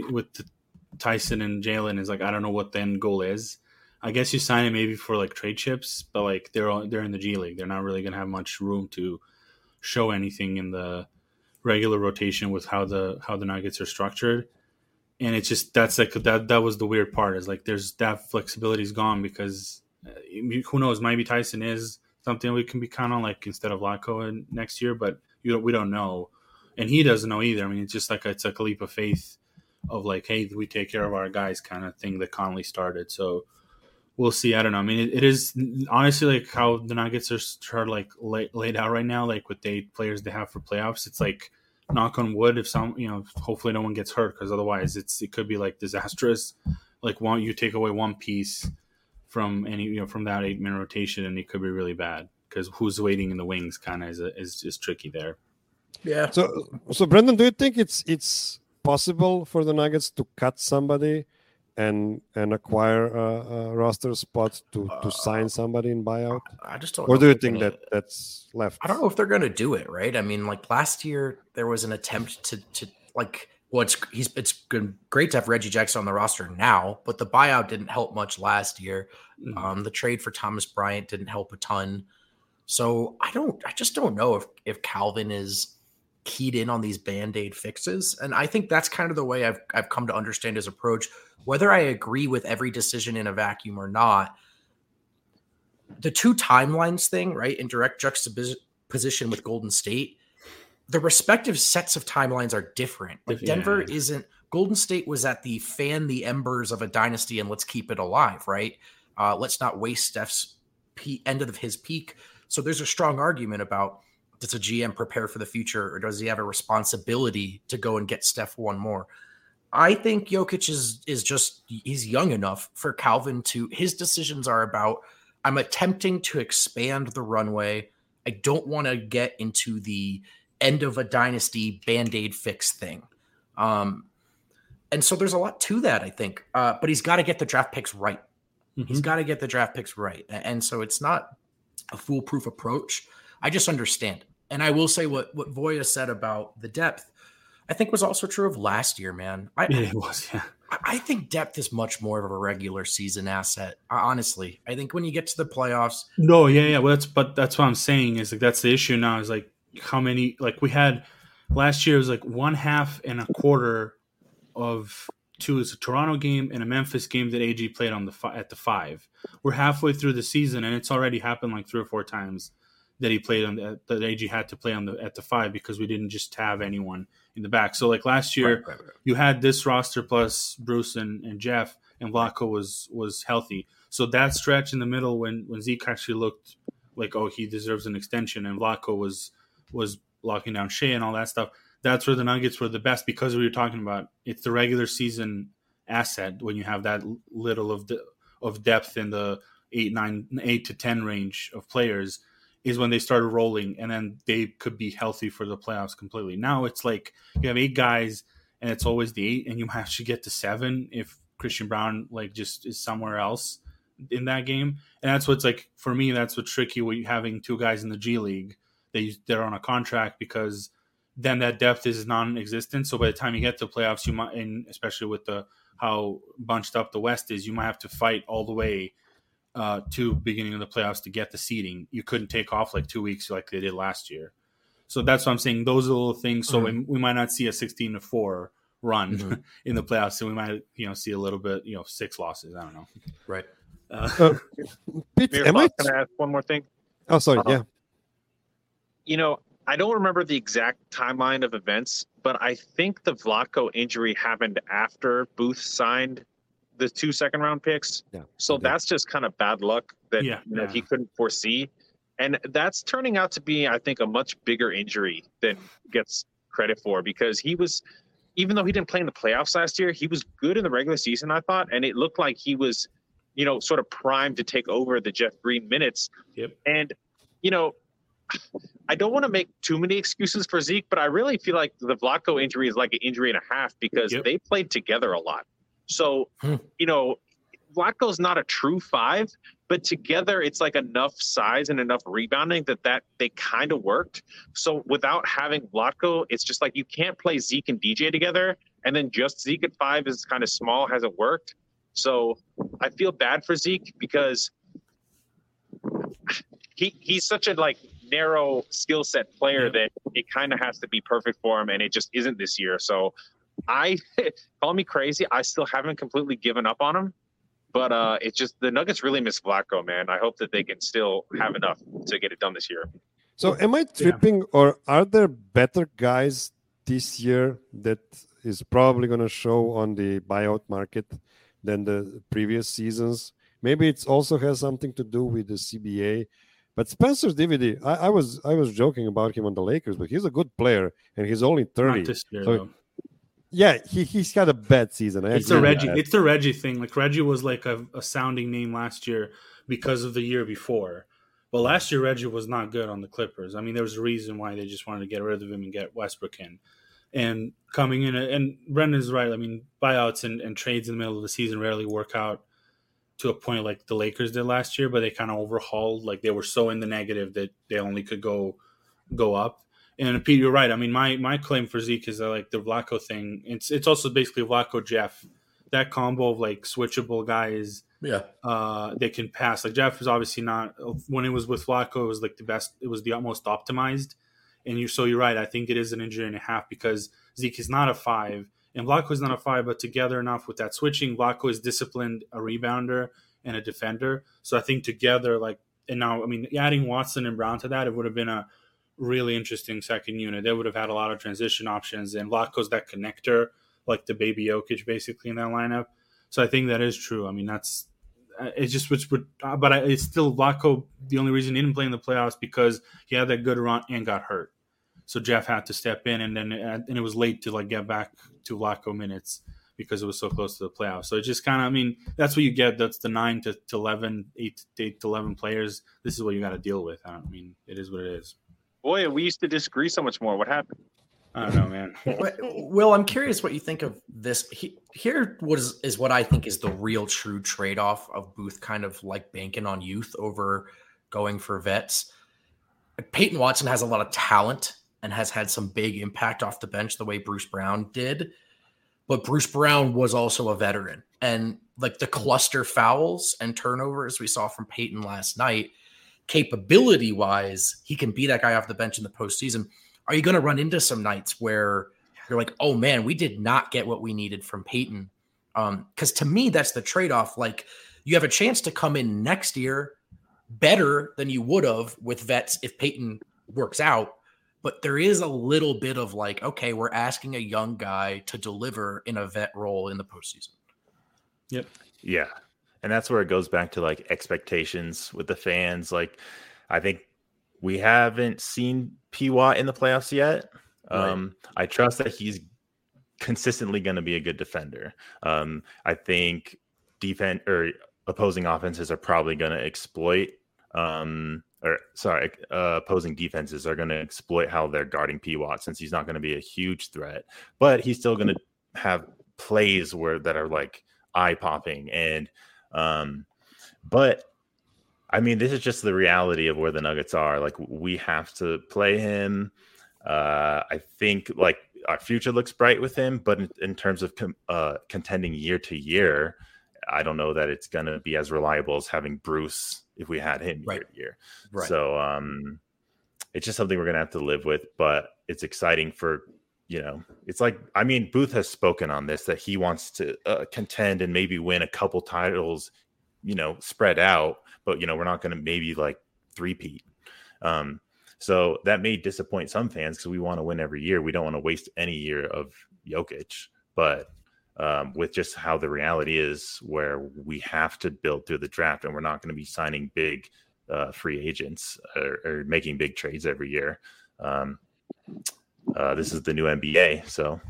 Tyson and Jalen, is like, I don't know what the end goal is. I guess you sign it maybe for like trade chips, but like they're in the G League. They're not really gonna have much room to show anything in the regular rotation with how the Nuggets are structured. And it's just, that's like that was the weird part, is like there's that flexibility is gone, because who knows, maybe Tyson is something we can be count on, like instead of Lacko next year, but we don't know. And he doesn't know either. I mean, it's just like it's like a leap of faith of like, hey, we take care of our guys kind of thing that Conley started. So we'll see. I don't know. I mean, it is honestly like how the Nuggets are like laid out right now, like with the 8 players they have for playoffs. It's like, knock on wood, if some, hopefully no one gets hurt, because otherwise it could be like disastrous. Like, you take away one piece from from that 8-man rotation, and it could be really bad, because who's waiting in the wings kind of is tricky there. Yeah. So Brendan, do you think it's possible for the Nuggets to cut somebody and acquire a roster spot to sign somebody in buyout? I just don't. Or do you think that's left? I don't know if they're going to do it, right? I mean, like last year there was an attempt to like Well, it's great to have Reggie Jackson on the roster now, but the buyout didn't help much last year. The trade for Thomas Bryant didn't help a ton. So I just don't know if Calvin is keyed in on these Band-Aid fixes. And I think that's kind of the way I've come to understand his approach. Whether I agree with every decision in a vacuum or not, the two timelines thing, right, in direct juxtaposition with Golden State, the respective sets of timelines are different. Like Denver isn't. Golden State was at the fan the embers of a dynasty and let's keep it alive, right? Let's not waste Steph's end of his peak. So there's a strong argument about, does a GM prepare for the future, or does he have a responsibility to go and get Steph one more? I think Jokic is just, he's young enough for Calvin to, his decisions are about, I'm attempting to expand the runway. I don't want to get into the end of a dynasty Band-Aid fix thing. And so there's a lot to that, I think. But he's got to get the draft picks right. He's got to get the draft picks right. And so it's not a foolproof approach. I just understand. And I will say what Voya said about the depth, I think was also true of last year, man. It was, yeah. I think depth is much more of a regular season asset. Honestly, I think when you get to the playoffs. No, yeah. Well, that's what I'm saying is like, that's the issue now is like how many, like we had last year, it was like 1/2 and a quarter of two is a Toronto game and a Memphis game that AG played on at the 5. We're halfway through the season and it's already happened like 3 or 4 times that he played that AG had to play at the 5 because we didn't just have anyone in the back. So like last year, right. You had this roster plus Bruce and Jeff, and Vlatko was healthy. So that stretch in the middle when Zeke actually looked like, oh, he deserves an extension, and Vlatko was locking down Shea and all that stuff. That's where the Nuggets were the best because we were talking about. It's the regular season asset when you have that little of depth in the 8 to 10 range of players is when they started rolling, and then they could be healthy for the playoffs completely. Now it's like you have 8 guys, and it's always the 8, and you might actually get to 7 if Christian Brown like just is somewhere else in that game. And that's what's like for me. That's what's tricky with having 2 guys in the G League. They're on a contract because then that depth is non-existent. So by the time you get to the playoffs, you might, and especially with how bunched up the West is, you might have to fight all the way to beginning of the playoffs to get the seeding. You couldn't take off like 2 weeks like they did last year. So that's what I'm saying. Those are the little things. So we might not see a 16-4 run in the playoffs. So we might, see a little bit, 6 losses. I don't know. Right. Can I ask one more thing? Oh, sorry. Yeah. I don't remember the exact timeline of events, but I think the Vlatko injury happened after Booth signed the 2 second-round picks. Yeah. So that's just kind of bad luck that he couldn't foresee. And that's turning out to be, I think, a much bigger injury than gets credit for, because he was, even though he didn't play in the playoffs last year, he was good in the regular season, I thought. And it looked like he was, sort of primed to take over the Jeff Green minutes. Yep. And, I don't want to make too many excuses for Zeke, but I really feel like the Vlatko injury is like an injury and a half because they played together a lot. So, Vlatko's not a true 5, but together it's like enough size and enough rebounding that they kind of worked. So without having Vlatko, it's just like you can't play Zeke and DJ together, and then just Zeke at 5 is kind of small, hasn't worked. So I feel bad for Zeke because he's such a narrow skill set player that it kind of has to be perfect for him, and it just isn't this year. So call me crazy, I still haven't completely given up on him, but it's just the Nuggets really miss Vlatko, man. I hope that they can still have enough to get it done this year. So am I tripping, or are there better guys this year that is probably going to show on the buyout market than the previous seasons? Maybe it also has something to do with the CBA. But Spencer Dinwiddie, I was joking about him on the Lakers, but he's a good player, and he's only 30. Not this year, so, though. Yeah, he's had a bad season. It's the Reggie thing. Like Reggie was like a sounding name last year because of the year before. But last year, Reggie was not good on the Clippers. I mean, there was a reason why they just wanted to get rid of him and get Westbrook in. And coming in, and Brendan's right. I mean, buyouts and trades in the middle of the season rarely work out to a point like the Lakers did last year, but they kind of overhauled. Like they were so in the negative that they only could go up. And Pete, you're right. I mean, my claim for Zeke is that, like, the Vlatko thing. It's also basically Vlatko Jeff, that combo of like switchable guys. Yeah. They can pass. Like Jeff was obviously not, when it was with Vlatko, it was like the best. It was the most optimized. And you're right. I think it is an injury and a half because Zeke is not a 5 and Vlatko is not a 5. But together enough with that switching, Vlatko is disciplined, a rebounder and a defender. So I think together, like, and now I mean, adding Watson and Brown to that, it would have been a really interesting second unit. They would have had a lot of transition options, and Vlatko's that connector, like the baby Jokic basically in that lineup. So I think that is true. I mean, that's it's just it's still Vlatko. The only reason he didn't play in the playoffs because he had that good run and got hurt. So Jeff had to step in, and it was late to like get back to Vlatko minutes because it was so close to the playoffs. So it just kind of, I mean, that's what you get. That's the 9 to 11, 8 to 11 players. This is what you got to deal with. I mean, it is what it is. Boy, we used to disagree so much more. What happened? I don't know, man. Will, I'm curious what you think of this. Here is what I think is the real true trade-off of Booth kind of like banking on youth over going for vets. Peyton Watson has a lot of talent and has had some big impact off the bench the way Bruce Brown did. But Bruce Brown was also a veteran. And like the cluster fouls and turnovers we saw from Peyton last night, capability-wise, he can be that guy off the bench in the postseason. Are you going to run into some nights where you're like, oh, man, we did not get what we needed from Peyton? Because to me, that's the trade-off. Like, you have a chance to come in next year better than you would have with vets if Peyton works out. But there is a little bit of like, okay, we're asking a young guy to deliver in a vet role in the postseason. Yep. Yeah. And that's where it goes back to like expectations with the fans. Like, I think we haven't seen P. Watt in the playoffs yet. Right. I trust that he's consistently going to be a good defender. I think opposing offenses are probably going to exploit opposing defenses are going to exploit how they're guarding P. Watt since he's not going to be a huge threat, but he's still going to have plays that are like eye popping. And, but I mean, this is just the reality of where the Nuggets are. Like, we have to play him. I think like our future looks bright with him, but in terms of contending year to year, I don't know that it's going to be as reliable as having Bruce if we had him year to year. Right. So it's just something we're going to have to live with, but it's exciting for, it's like, I mean, Booth has spoken on this, that he wants to contend and maybe win a couple titles, spread out, but, we're not going to maybe like three-peat. So that may disappoint some fans because we want to win every year. We don't want to waste any year of Jokic, but with just how the reality is where we have to build through the draft and we're not going to be signing big free agents or making big trades every year. This is the new NBA. So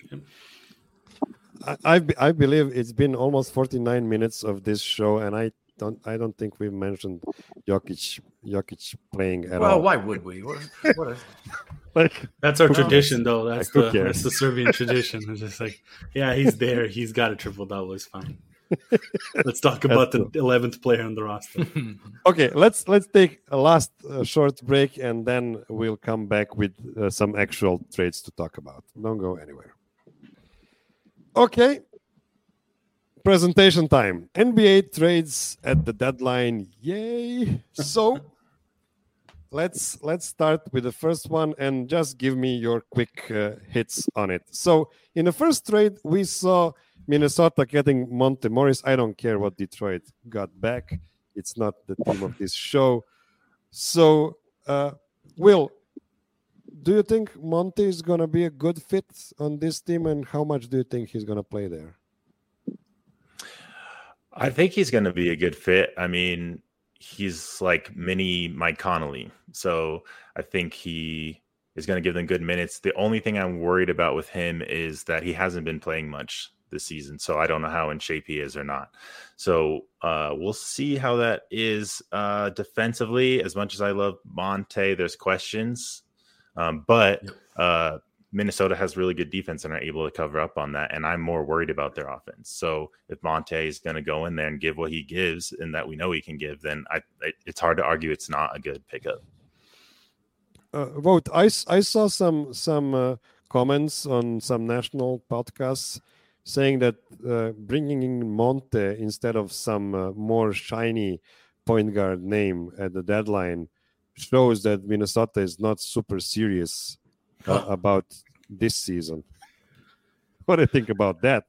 I believe it's been almost 49 minutes of this show, and I don't think we've mentioned Jokic playing at all. Well, why would we? That's our tradition, though. That's the Serbian tradition. It's just like, yeah, he's there. He's got a triple-double. It's fine. Let's talk about the 11th player on the roster. Okay, let's take a last short break, and then we'll come back with some actual trades to talk about. Don't go anywhere. Okay. Presentation time. NBA trades at the deadline. Yay. So let's start with the first one and just give me your quick hits on it. So in the first trade, we saw Minnesota getting Monte Morris. I don't care what Detroit got back. It's not the theme of this show. So, Will, do you think Monte is going to be a good fit on this team, and how much do you think he's going to play there? I think he's going to be a good fit. I mean, he's like mini Mike Conley. So I think he is going to give them good minutes. The only thing I'm worried about with him is that he hasn't been playing much this season. So I don't know how in shape he is or not. So we'll see how that is defensively. As much as I love Monte, there's questions. But Minnesota has really good defense and are able to cover up on that. And I'm more worried about their offense. So if Monte is going to go in there and give what he gives and that we know he can give, then it's hard to argue it's not a good pickup. Vote. I saw some comments on some national podcasts saying that bringing in Monte instead of some more shiny point guard name at the deadline shows that Minnesota is not super serious about this season. What do you think about that?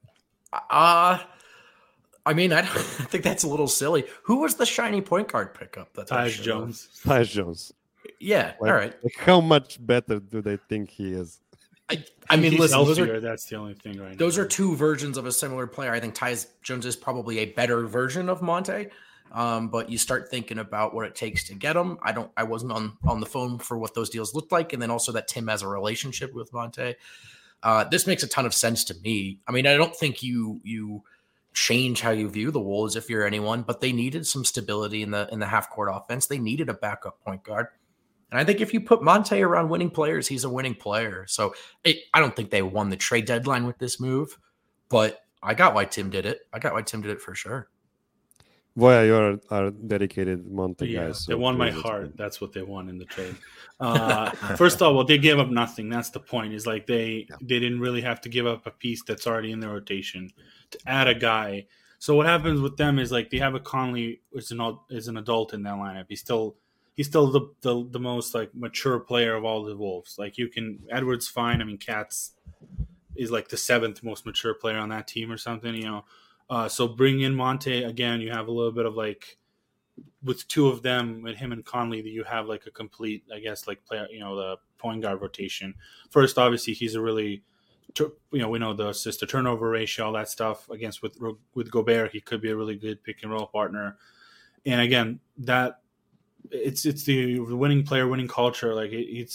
I mean, I think that's a little silly. Who was the shiny point guard pickup? Tyus Jones. Tyus Jones. Yeah, all right. Like how much better do they think he is? I mean, He's listen, healthier, that's the only thing right now. Those are two versions of a similar player. I think Tyus Jones is probably a better version of Monte. But you start thinking about what it takes to get him. I wasn't on the phone for what those deals looked like, and then also that Tim has a relationship with Monte. This makes a ton of sense to me. I mean, I don't think you change how you view the Wolves if you're anyone, but they needed some stability in the half court offense. They needed a backup point guard. And I think if you put Monte around winning players, he's a winning player. So I don't think they won the trade deadline with this move, but I got why Tim did it. I got why Tim did it for sure. Well, you are dedicated Monte guys. They won my heart. That's what they won in the trade. First of all, well, they gave up nothing. That's the point. Is like they didn't really have to give up a piece that's already in their rotation to add a guy. So what happens with them is like they have a Conley is an adult in that lineup. He's still the most like mature player of all the Wolves. Like Edwards fine. I mean, Katz is like the 7th most mature player on that team or something. You know. So bring in Monte again. You have a little bit of like with two of them, with him and Conley, that you have like a complete, I guess, like player. You know, the point guard rotation. First, obviously, he's a really, we know the assist to turnover ratio, all that stuff. Against with Gobert, he could be a really good pick and roll partner. And again, that it's the winning player, winning culture. Like it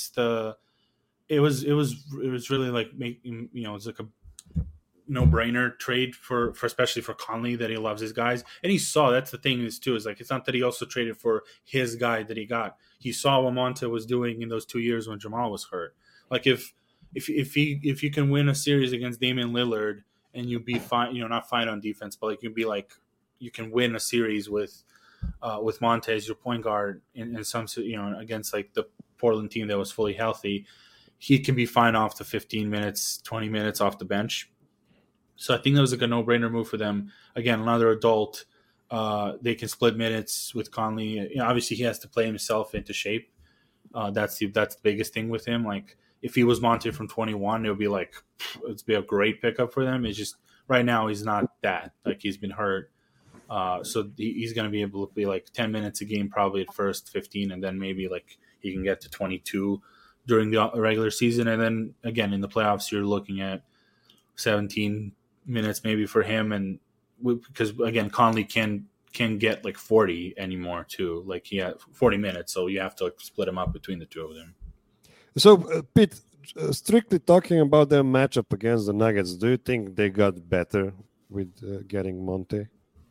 was really like making, you know, it's like a no-brainer trade for especially for Conley, that he loves his guys, and he saw that's the thing is too is like it's not that he also traded for his guy that he got. He saw what Monte was doing in those 2 years when Jamal was hurt. Like if you can win a series against Damian Lillard and you be fine, you know, not fine on defense, but like you can win a series with Monte as your point guard in some, you know, against like the Portland team that was fully healthy, he can be fine off the 15 minutes, 20 minutes off the bench. So I think that was like a no-brainer move for them. Again, another adult. They can split minutes with Conley. You know, obviously, he has to play himself into shape. That's the biggest thing with him. Like if he was Monte from 21, it would be like it'd be a great pickup for them. It's just right now he's not that. Like he's been hurt, so he's going to be able to be like 10 minutes a game probably at first, 15, and then maybe like he can get to 22 during the regular season, and then again in the playoffs you're looking at 17 minutes maybe for him, and because again Conley can get like 40 anymore too, like he had 40 minutes, so you have to like split him up between the two of them. So Pete, strictly talking about their matchup against the Nuggets, do you think they got better with getting Monte?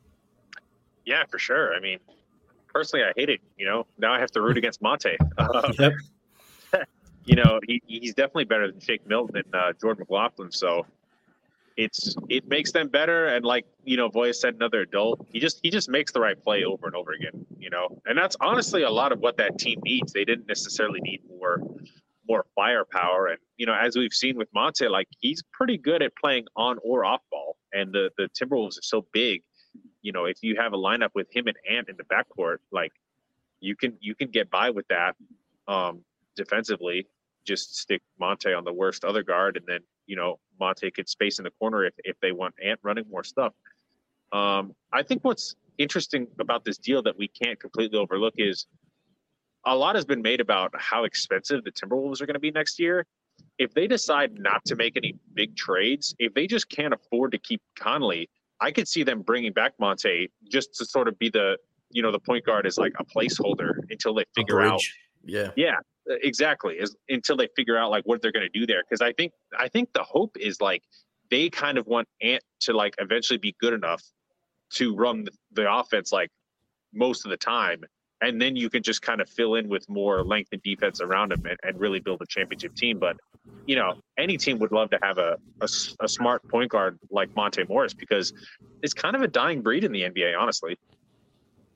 Yeah, for sure. I mean, personally, I hate it. You know, now I have to root against Monte. Yep. You know, he's definitely better than Shake Milton and Jordan McLaughlin. So it makes them better. And like, you know, Voya said, another adult. He just makes the right play over and over again, you know. And that's honestly a lot of what that team needs. They didn't necessarily need more firepower. And, you know, as we've seen with Monte, like he's pretty good at playing on or off ball. And the Timberwolves are so big. You know, if you have a lineup with him and Ant in the backcourt, like you can get by with that defensively. Just stick Monte on the worst other guard, and then, you know, Monte could space in the corner if they want Ant running more stuff. I think what's interesting about this deal that we can't completely overlook is a lot has been made about how expensive the Timberwolves are going to be next year. If they decide not to make any big trades, if they just can't afford to keep Conley, I could see them bringing back Monte just to sort of be the, you know, the point guard is like a placeholder until they figure out. Yeah, exactly. Until they figure out like what they're going to do there. Because I think the hope is like they kind of want Ant to like eventually be good enough to run the offense like most of the time. And then you can just kind of fill in with more length and defense around him and really build a championship team. But, you know, any team would love to have a smart point guard like Monte Morris, because it's kind of a dying breed in the NBA, honestly.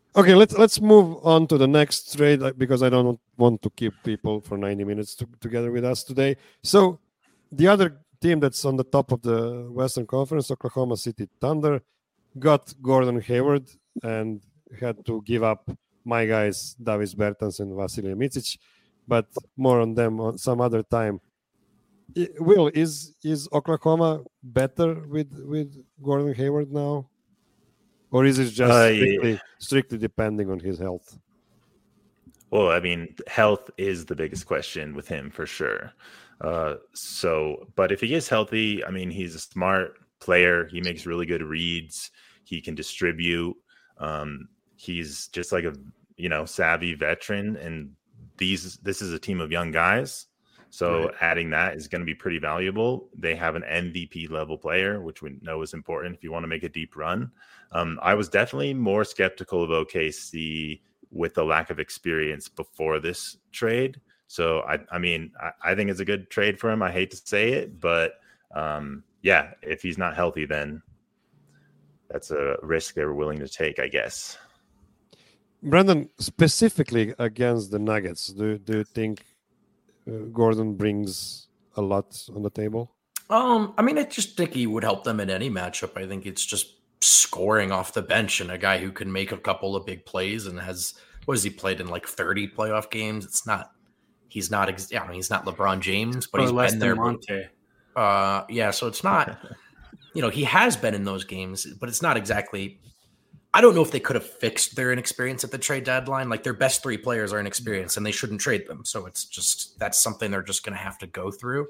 Okay, let's move on to the next trade because I don't want to keep people for 90 minutes together with us today. So the other team that's on the top of the Western Conference, Oklahoma City Thunder, got Gordon Hayward and had to give up my guys Davis Bertans and Vasilij Micic, but more on them on some other time. Will, is Oklahoma better with Gordon Hayward now, or is it just strictly depending on his health? Well, I mean, health is the biggest question with him for sure. But if he is healthy, I mean, he's a smart player. He makes really good reads. He can distribute. He's just like a savvy veteran, and this is a team of young guys. So right. Adding that is going to be pretty valuable. They have an MVP level player, which we know is important if you want to make a deep run. I was definitely more skeptical of OKC with the lack of experience before this trade. So I mean, I think it's a good trade for him. I hate to say it, but yeah, if he's not healthy, then that's a risk they were willing to take, I guess. Brandon, specifically against the Nuggets, do you think Gordon brings a lot on the table? I mean, I just think he would help them in any matchup. I think it's just scoring off the bench and a guy who can make a couple of big plays and has, what has he played in, like 30 playoff games? He's not LeBron James, but he's been there. Yeah, so it's not, he has been in those games, but it's not exactly. I don't know if they could have fixed their inexperience at the trade deadline. Like, their best three players are inexperienced and they shouldn't trade them. So it's just, that's something they're just going to have to go through.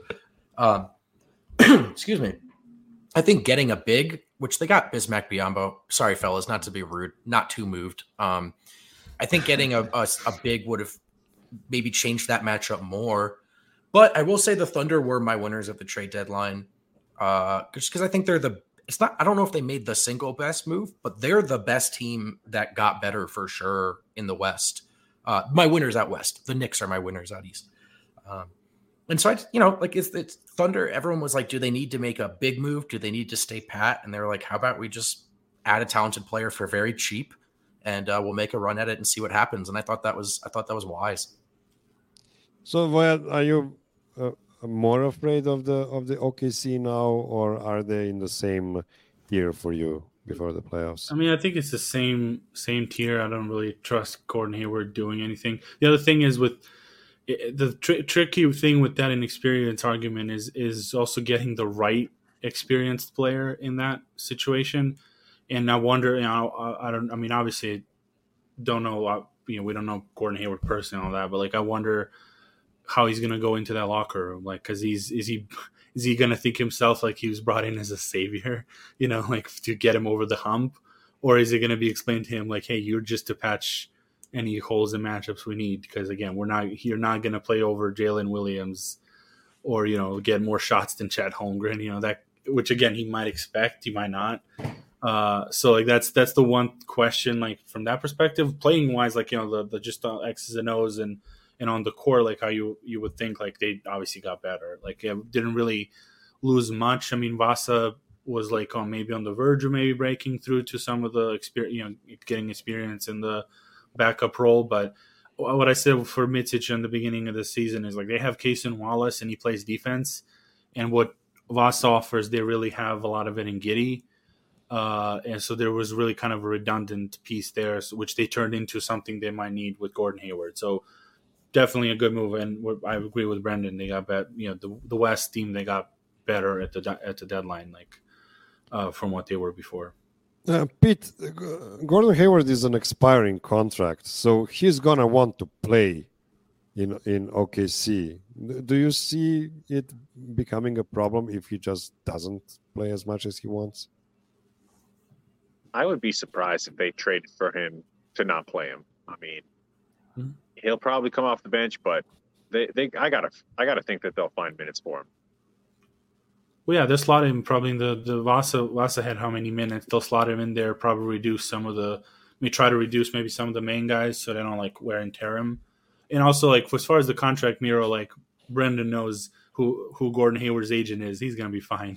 Excuse me. I think getting a big, which they got Bismack Biyombo. Sorry, fellas, not to be rude, not too moved. I think getting a big would have maybe changed that matchup more. But I will say the Thunder were my winners at the trade deadline. Just because I think I don't know if they made the single best move, but they're the best team that got better for sure in the West. My winners out West. The Knicks are my winners out East. And so it's Thunder. Everyone was like, do they need to make a big move? Do they need to stay pat? And they're like, how about we just add a talented player for very cheap and we'll make a run at it and see what happens. And I thought that was wise. So Voyad, are you more afraid of the OKC now, or are they in the same tier for you before the playoffs? I mean, I think it's the same tier. I don't really trust Gordon Hayward doing anything. The other thing is with the tricky thing with that inexperience argument is also getting the right experienced player in that situation. And I wonder, I mean, obviously, don't know, we don't know Gordon Hayward personally and all that, but like, I wonder how he's going to go into that locker room. Like, cause is he going to think himself like he was brought in as a savior, like to get him over the hump? Or is it going to be explained to him like, hey, you're just to patch any holes in matchups we need? Because again, you're not going to play over Jalen Williams or, get more shots than Chet Holmgren, that, which again, he might expect, he might not. So like, that's the one question, like from that perspective, playing wise, like, the just X's and O's and on the core, like how you would think, like they obviously got better. Like, it didn't really lose much. I mean, Vasa was like maybe on the verge of maybe breaking through to some of the experience, getting experience in the backup role. But what I said for Micic in the beginning of the season is like they have Cason Wallace and he plays defense, and what Vasa offers, they really have a lot of it in Giddey. And so there was really kind of a redundant piece there, which they turned into something they might need with Gordon Hayward. So definitely a good move, and I agree with Brendan. They got better. The West team, they got better at the deadline, like from what they were before. Pete, Gordon Hayward is an expiring contract, so he's gonna want to play in OKC. Do you see it becoming a problem if he just doesn't play as much as he wants? I would be surprised if they traded for him to not play him. I mean. Mm-hmm. He'll probably come off the bench, but I gotta think that they'll find minutes for him. Well, yeah, they'll slot him probably in the Vasa had how many minutes? They'll slot him in there, probably reduce some of the, try to reduce maybe some of the main guys so they don't like wear and tear him. And also, like, as far as the contract, Miro, like Brendan knows who Gordon Hayward's agent is, he's gonna be fine.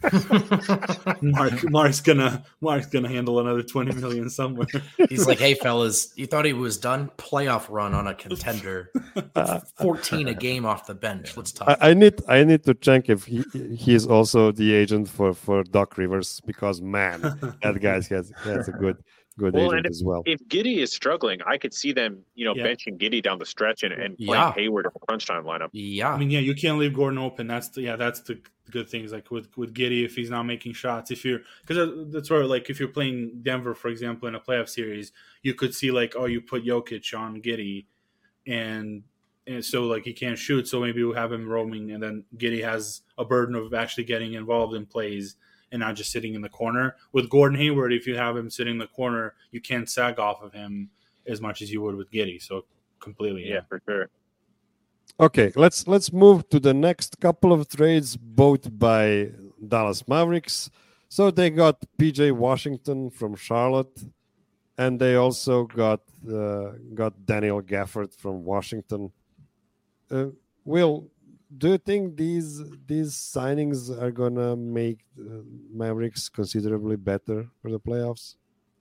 Mark's gonna handle another $20 million somewhere. He's like, hey fellas, you thought he was done? Playoff run on a contender, 14 a game off the bench. Let's talk. I need to check if he is also the agent for Doc Rivers, because man, that guy has a good agent as well. If Giddey is struggling, I could see them, benching Giddey down the stretch and playing Hayward in the crunch time lineup. Yeah, I mean, you can't leave Gordon open. That's the good things. Like with Giddey, if he's not making shots, because that's where, like, if you're playing Denver, for example, in a playoff series, you could see like, oh, you put Jokic on Giddey, and so like he can't shoot, so maybe we'll have him roaming, and then Giddey has a burden of actually getting involved in plays and not just sitting in the corner. With Gordon Hayward, if you have him sitting in the corner, you can't sag off of him as much as you would with Giddey. So completely, yeah, for sure. Okay, let's move to the next couple of trades, both by Dallas Mavericks. So they got PJ Washington from Charlotte, and they also got Daniel Gafford from Washington. Will, do you think these signings are gonna make Mavericks considerably better for the playoffs?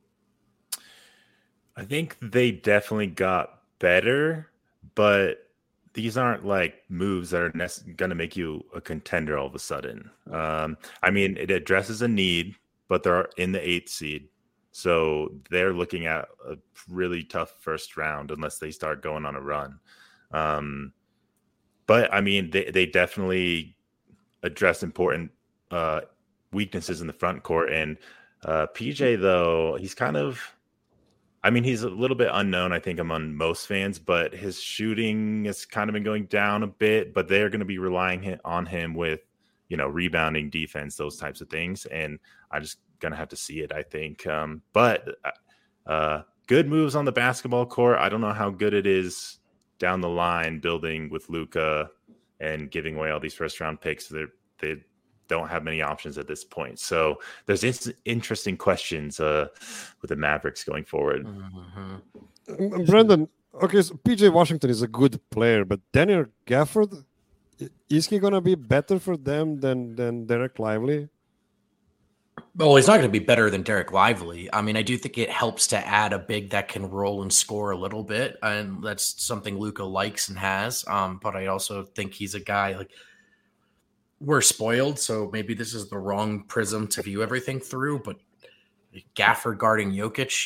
I think they definitely got better, but these aren't like moves that are going to make you a contender all of a sudden. I mean, it addresses a need, but they're in the 8th seed. So they're looking at a really tough first round unless they start going on a run. But I mean, they definitely address important weaknesses in the front court. And PJ, though, he's kind of, I mean, he's a little bit unknown, I think, among most fans, but his shooting has kind of been going down a bit, but they're going to be relying on him with, rebounding, defense, those types of things. And I'm just going to have to see it, I think. But good moves on the basketball court. I don't know how good it is down the line, building with Luka and giving away all these first round picks. They don't have many options at this point. So there's interesting questions with the Mavericks going forward. Mm-hmm. Brandon, okay, so PJ Washington is a good player, but Daniel Gafford, is he going to be better for them than Derek Lively? Well, he's not going to be better than Derek Lively. I mean, I do think it helps to add a big that can roll and score a little bit, and that's something Luka likes and has. But I also think he's a guy, like, we're spoiled, so maybe this is the wrong prism to view everything through, but Gafford guarding Jokic,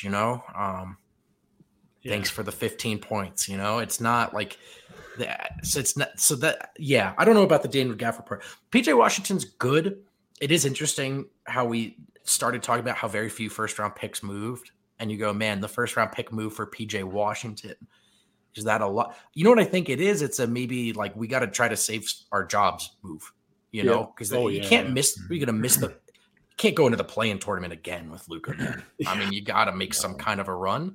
thanks for the 15 points, it's not like that. So it's not, so that, yeah, I don't know about the Daniel Gafford part. PJ Washington's good. It is interesting how we started talking about how very few first round picks moved, and you go, man, the first round pick move for PJ Washington. Is that a lot? You know what I think it is? It's a maybe like we got to try to save our jobs move. Because you can't miss. You're gonna miss the. You can't go into the play-in tournament again with Luka. I mean, you got to make some kind of a run.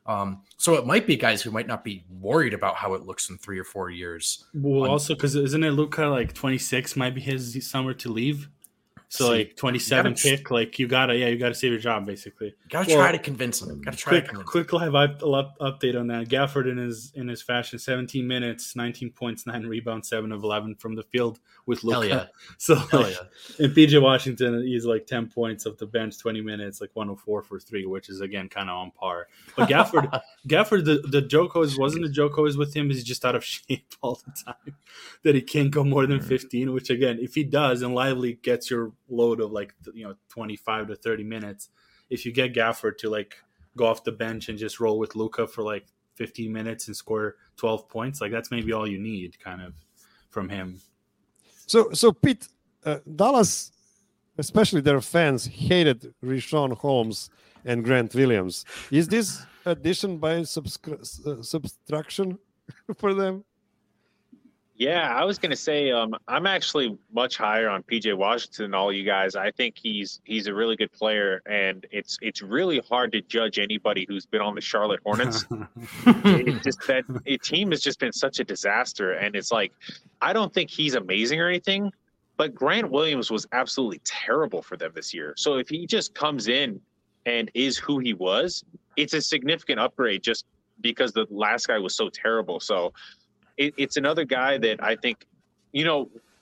So it might be guys who might not be worried about how it looks in 3 or 4 years. Well, also because isn't it Luka like 26 might be his summer to leave? So like 27 pick, like you gotta save your job basically. Try to convince him. Quick live update on that. Gafford in his fashion, 17 minutes, 19 points, 9 rebounds, 7 of 11 from the field with Luka. Yeah. So and PJ Washington, he's like 10 points off the bench, 20 minutes, like 104 for 3, which is again kind of on par. But Gafford, the joke wasn't the joke always with him. He's just out of shape all the time. That he can't go more than 15. Which again, if he does, and Lively gets your load of 25 to 30 minutes, if you get Gafford to like go off the bench and just roll with Luka for like 15 minutes and score 12 points, like that's maybe all you need kind of from him. So Pete, Dallas, especially their fans, hated Richaun Holmes and Grant Williams. Is this addition by subtraction for them? Yeah, I was going to say I'm actually much higher on PJ Washington than all you guys. I think he's a really good player, and it's really hard to judge anybody who's been on the Charlotte Hornets. It's just that team has just been such a disaster, and it's like I don't think he's amazing or anything, but Grant Williams was absolutely terrible for them this year. So if he just comes in and is who he was, it's a significant upgrade just because the last guy was so terrible. So it's another guy that I think,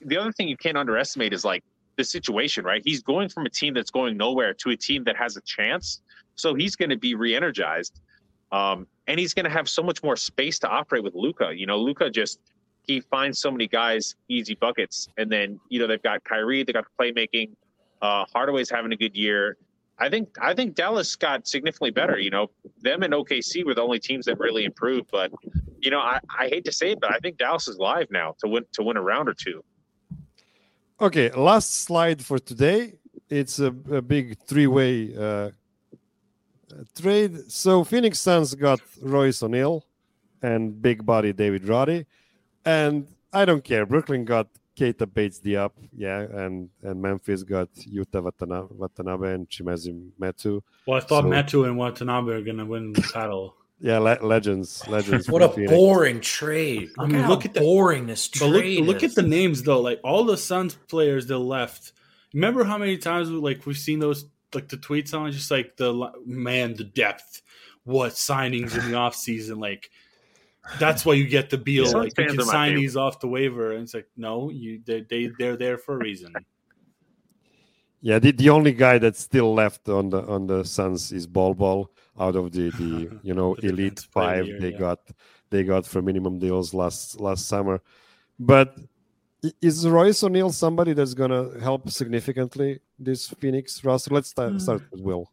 the other thing you can't underestimate is like the situation, right? He's going from a team that's going nowhere to a team that has a chance. So he's going to be re-energized. And he's going to have so much more space to operate with Luka. You know, Luka he finds so many guys easy buckets. And then, you know, they've got Kyrie, they got playmaking. Hardaway's having a good year. I think Dallas got significantly better. You know, them and OKC were the only teams that really improved. But, you know, I hate to say it, but I think Dallas is live now to win a round or two. Okay, last slide for today. It's a big three-way trade. So Phoenix Suns got Royce O'Neal and big body David Roddy. And I don't care. Brooklyn got Keita Bates-Diop, and Memphis got Yuta Watanabe and Chimezie Metu. Well, I thought Metu and Watanabe are going to win the title. Yeah, legends. What a Phoenix. Boring trade. I mean, look at boring this trade. But look at the names though. Like all the Suns players that left. Remember how many times we've seen those, like the tweets on just like the depth, what signings in the offseason, like. That's why you get the Beal. Like you can sign these off the waiver, and it's like no, they're there for a reason. Yeah, the only guy that's still left on the Suns is Bol out of the elite five they got for minimum deals last summer. But is Royce O'Neal somebody that's gonna help significantly this Phoenix roster? Let's start with Will.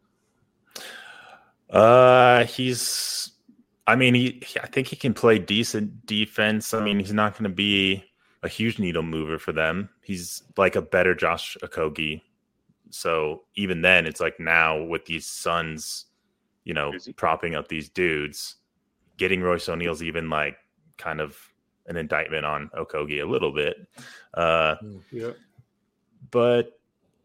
I think he can play decent defense. I mean, he's not going to be a huge needle mover for them. He's like a better Josh Okogie. So even then, it's like now with these Suns, you know, propping up these dudes, getting Royce O'Neal's even like kind of an indictment on Okogie a little bit. But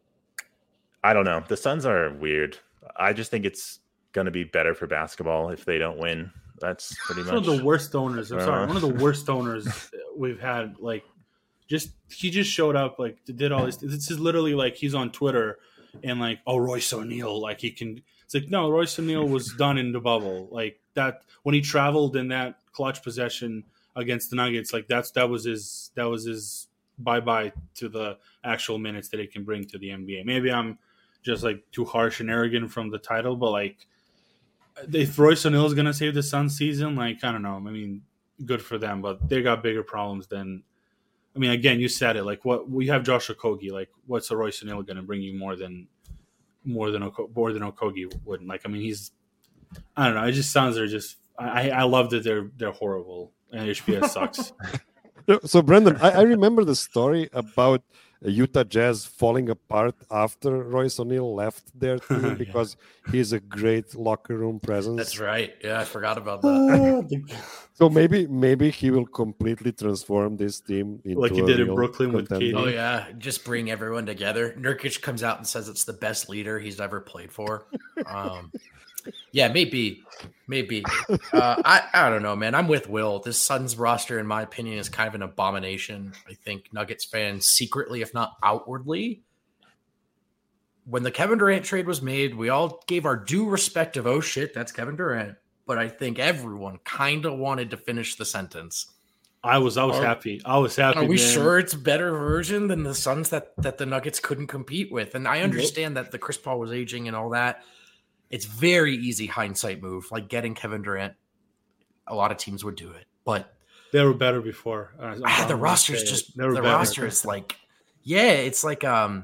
I don't know. The Suns are weird. I just think it's going to be better for basketball if they don't win. That's pretty much one of the worst owners. I'm sorry, one of the worst owners we've had. Like, he just showed up, like did all this. This is literally like he's on Twitter and like, oh, Royce O'Neal, like he can. It's like no, Royce O'Neal was done in the bubble. Like that when he traveled in that clutch possession against the Nuggets, like that was his bye to the actual minutes that he can bring to the NBA. Maybe I'm just like too harsh and arrogant from the title, but like. If Royce O'Neal is going to save the Suns season, like, I don't know. I mean, good for them, but they got bigger problems than – I mean, again, you said it. Like, what we have Josh Okogie. Like, what's a Royce O'Neal going to bring you more than Okogie wouldn't? Like, I mean, he's – I don't know. It just sounds they're just – I love that they're horrible and HBS sucks. So, Brendan, I remember the story about Utah Jazz falling apart after Royce O'Neal left their team because he's a great locker room presence. That's right. Yeah, I forgot about that. So maybe he will completely transform this team into like he did in Brooklyn with KD. Oh yeah, just bring everyone together. Nurkic comes out and says it's the best leader he's ever played for. Yeah, maybe. I don't know, man. I'm with Will. This Suns roster, in my opinion, is kind of an abomination. I think Nuggets fans secretly, if not outwardly, when the Kevin Durant trade was made, we all gave our due respect of, oh shit, that's Kevin Durant. But I think everyone kind of wanted to finish the sentence. I was happy. I was happy. Are we sure it's a better version than the Suns that the Nuggets couldn't compete with? And I understand that the Chris Paul was aging and all that. It's very easy hindsight move, like getting Kevin Durant. A lot of teams would do it, but they were better before. The roster's just the roster is like, yeah, it's like a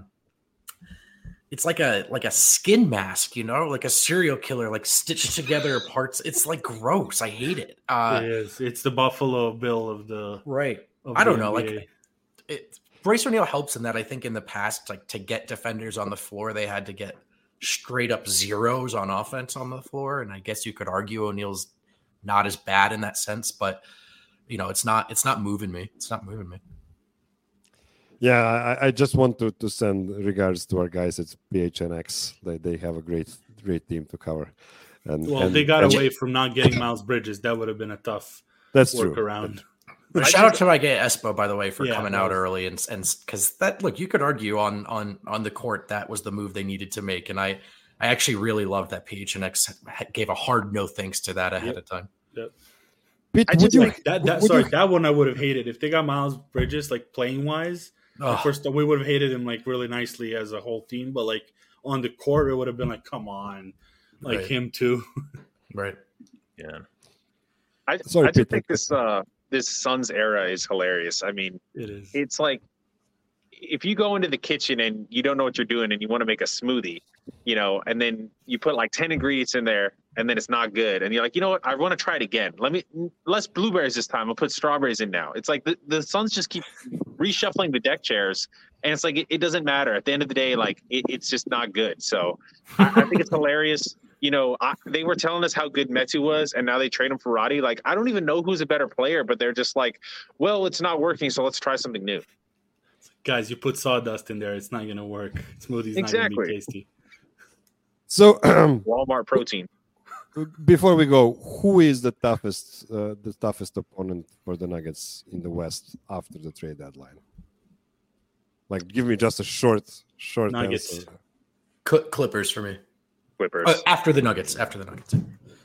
skin mask, you know, like a serial killer, like stitched together parts. It's like gross. I hate it. It is. It's the Buffalo Bill of the right. I don't know, NBA. Royce O'Neal helps in that. I think in the past, like to get defenders on the floor, they had to get straight up zeros on offense on the floor. And I guess you could argue O'Neal's not as bad in that sense, but you know, it's not moving me. It's not moving me. Yeah. I just want to send regards to our guys at PHNX. They have a great team to cover. And they got away from not getting Miles Bridges. That would have been a tough workaround. Shout out to my guy Espo, by the way, for coming out early and because that look, you could argue on the court that was the move they needed to make, and I actually really loved that PHNX gave a hard no thanks to that ahead of time. Yep. Pete, I would just you? like That one I would have hated if they got Miles Bridges like playing wise. Ugh. First, we would have hated him like really nicely as a whole team, but like on the court, it would have been like, come on, like Right. him too. Right. Yeah. I Sorry, just Pete, think this Suns era is hilarious. I mean, It is. it's like if you go into the kitchen and you don't know what you're doing and you want to make a smoothie, you know, and then you put like 10 ingredients in there and then it's not good. And you're like, you know what? I want to try it again. Less blueberries this time. I'll put strawberries in now. It's like the Suns just keep reshuffling the deck chairs. And it's like, it doesn't matter. At the end of the day, like it's just not good. So I think it's hilarious. You know, they were telling us how good Metu was, and now they trade him for Roddy. Like, I don't even know who's a better player, but they're just like, well, it's not working, so let's try something new. Guys, you put sawdust in there, it's not gonna work. Smoothie's not Exactly. gonna be tasty. So Walmart protein. before we go, who is the toughest opponent for the Nuggets in the West after the trade deadline? Like, give me just a short Nuggets. answer. Clippers for me. Clippers. After the Nuggets. After the Nuggets.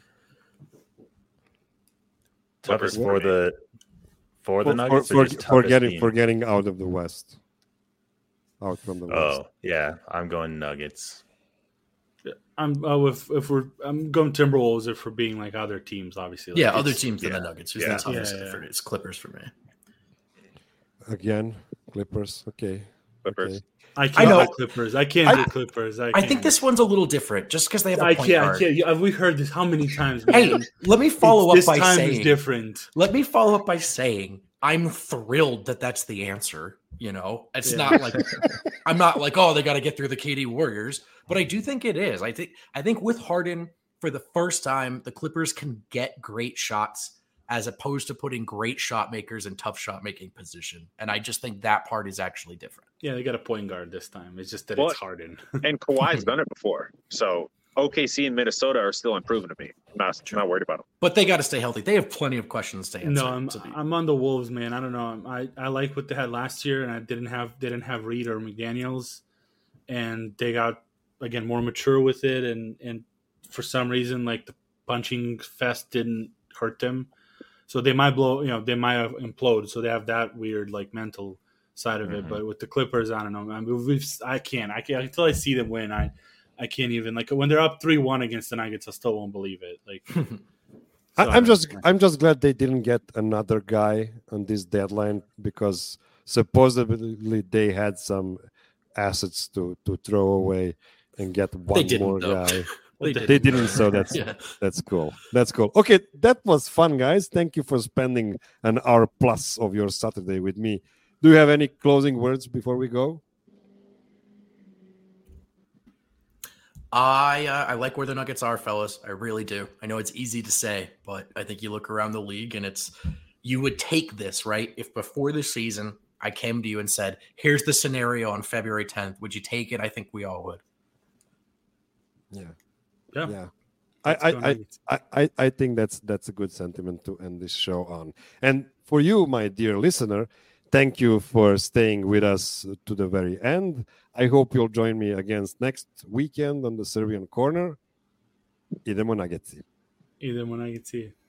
Toughest for the Nuggets for, or just for toughest team? getting out of the West, out from the West. Oh yeah, I'm going Nuggets. I'm going Timberwolves if we're being like other teams, obviously. Like, Yeah, other teams than yeah. the Nuggets. Who's Yeah. the toughest Yeah. effort? It's Clippers for me. Again, Clippers. Okay. Clippers. Okay. I can't know. do Clippers. I can't do Clippers. I can't. think this one's a little different just because they have a I point can't. guard. I can't. Yeah, we heard this how many times? Hey, Man? let me follow This up by time saying is different. Let me follow up by saying I'm thrilled that that's the answer. You know, it's Yeah. not like I'm not like, oh, they got to get through the KD Warriors, but I do think it is. I think with Harden for the first time, the Clippers can get great shots as opposed to putting great shot makers in tough shot making position, and I just think that part is actually different. Yeah, they got a point guard this time. It's just that Well, it's Harden. And Kawhi's done it before. So OKC and Minnesota are still improving to me. I'm not worried about them. But they got to stay healthy. They have plenty of questions to answer. No, I'm on the Wolves, man. I don't know. I like what they had last year, and I didn't have Reed or McDaniels, and they got again more mature with it, and for some reason, like the punching fest didn't hurt them, so they might blow. You know, they might have implode. So they have that weird like mental side of it. But with the Clippers, I don't know. I mean, I can't until I see them win. I can't even like when they're up 3-1 against the Nuggets. I still won't believe it. Like. I'm just glad they didn't get another guy on this deadline because supposedly they had some assets to throw away and get one didn't, more though. guy. They They didn't, so Yeah. that's cool. That's cool. Okay, that was fun, guys. Thank you for spending an hour plus of your Saturday with me. Do you have any closing words before we go? I like where the Nuggets are, fellas. I really do. I know it's easy to say, but I think you look around the league and you would take this, right? If before the season I came to you and said, here's the scenario on February 10th, would you take it? I think we all would. Yeah. I think that's a good sentiment to end this show on. And for you, my dear listener, thank you for staying with us to the very end. I hope you'll join me again next weekend on the Serbian Corner. Idemo Nuggets. Idemo Nuggets.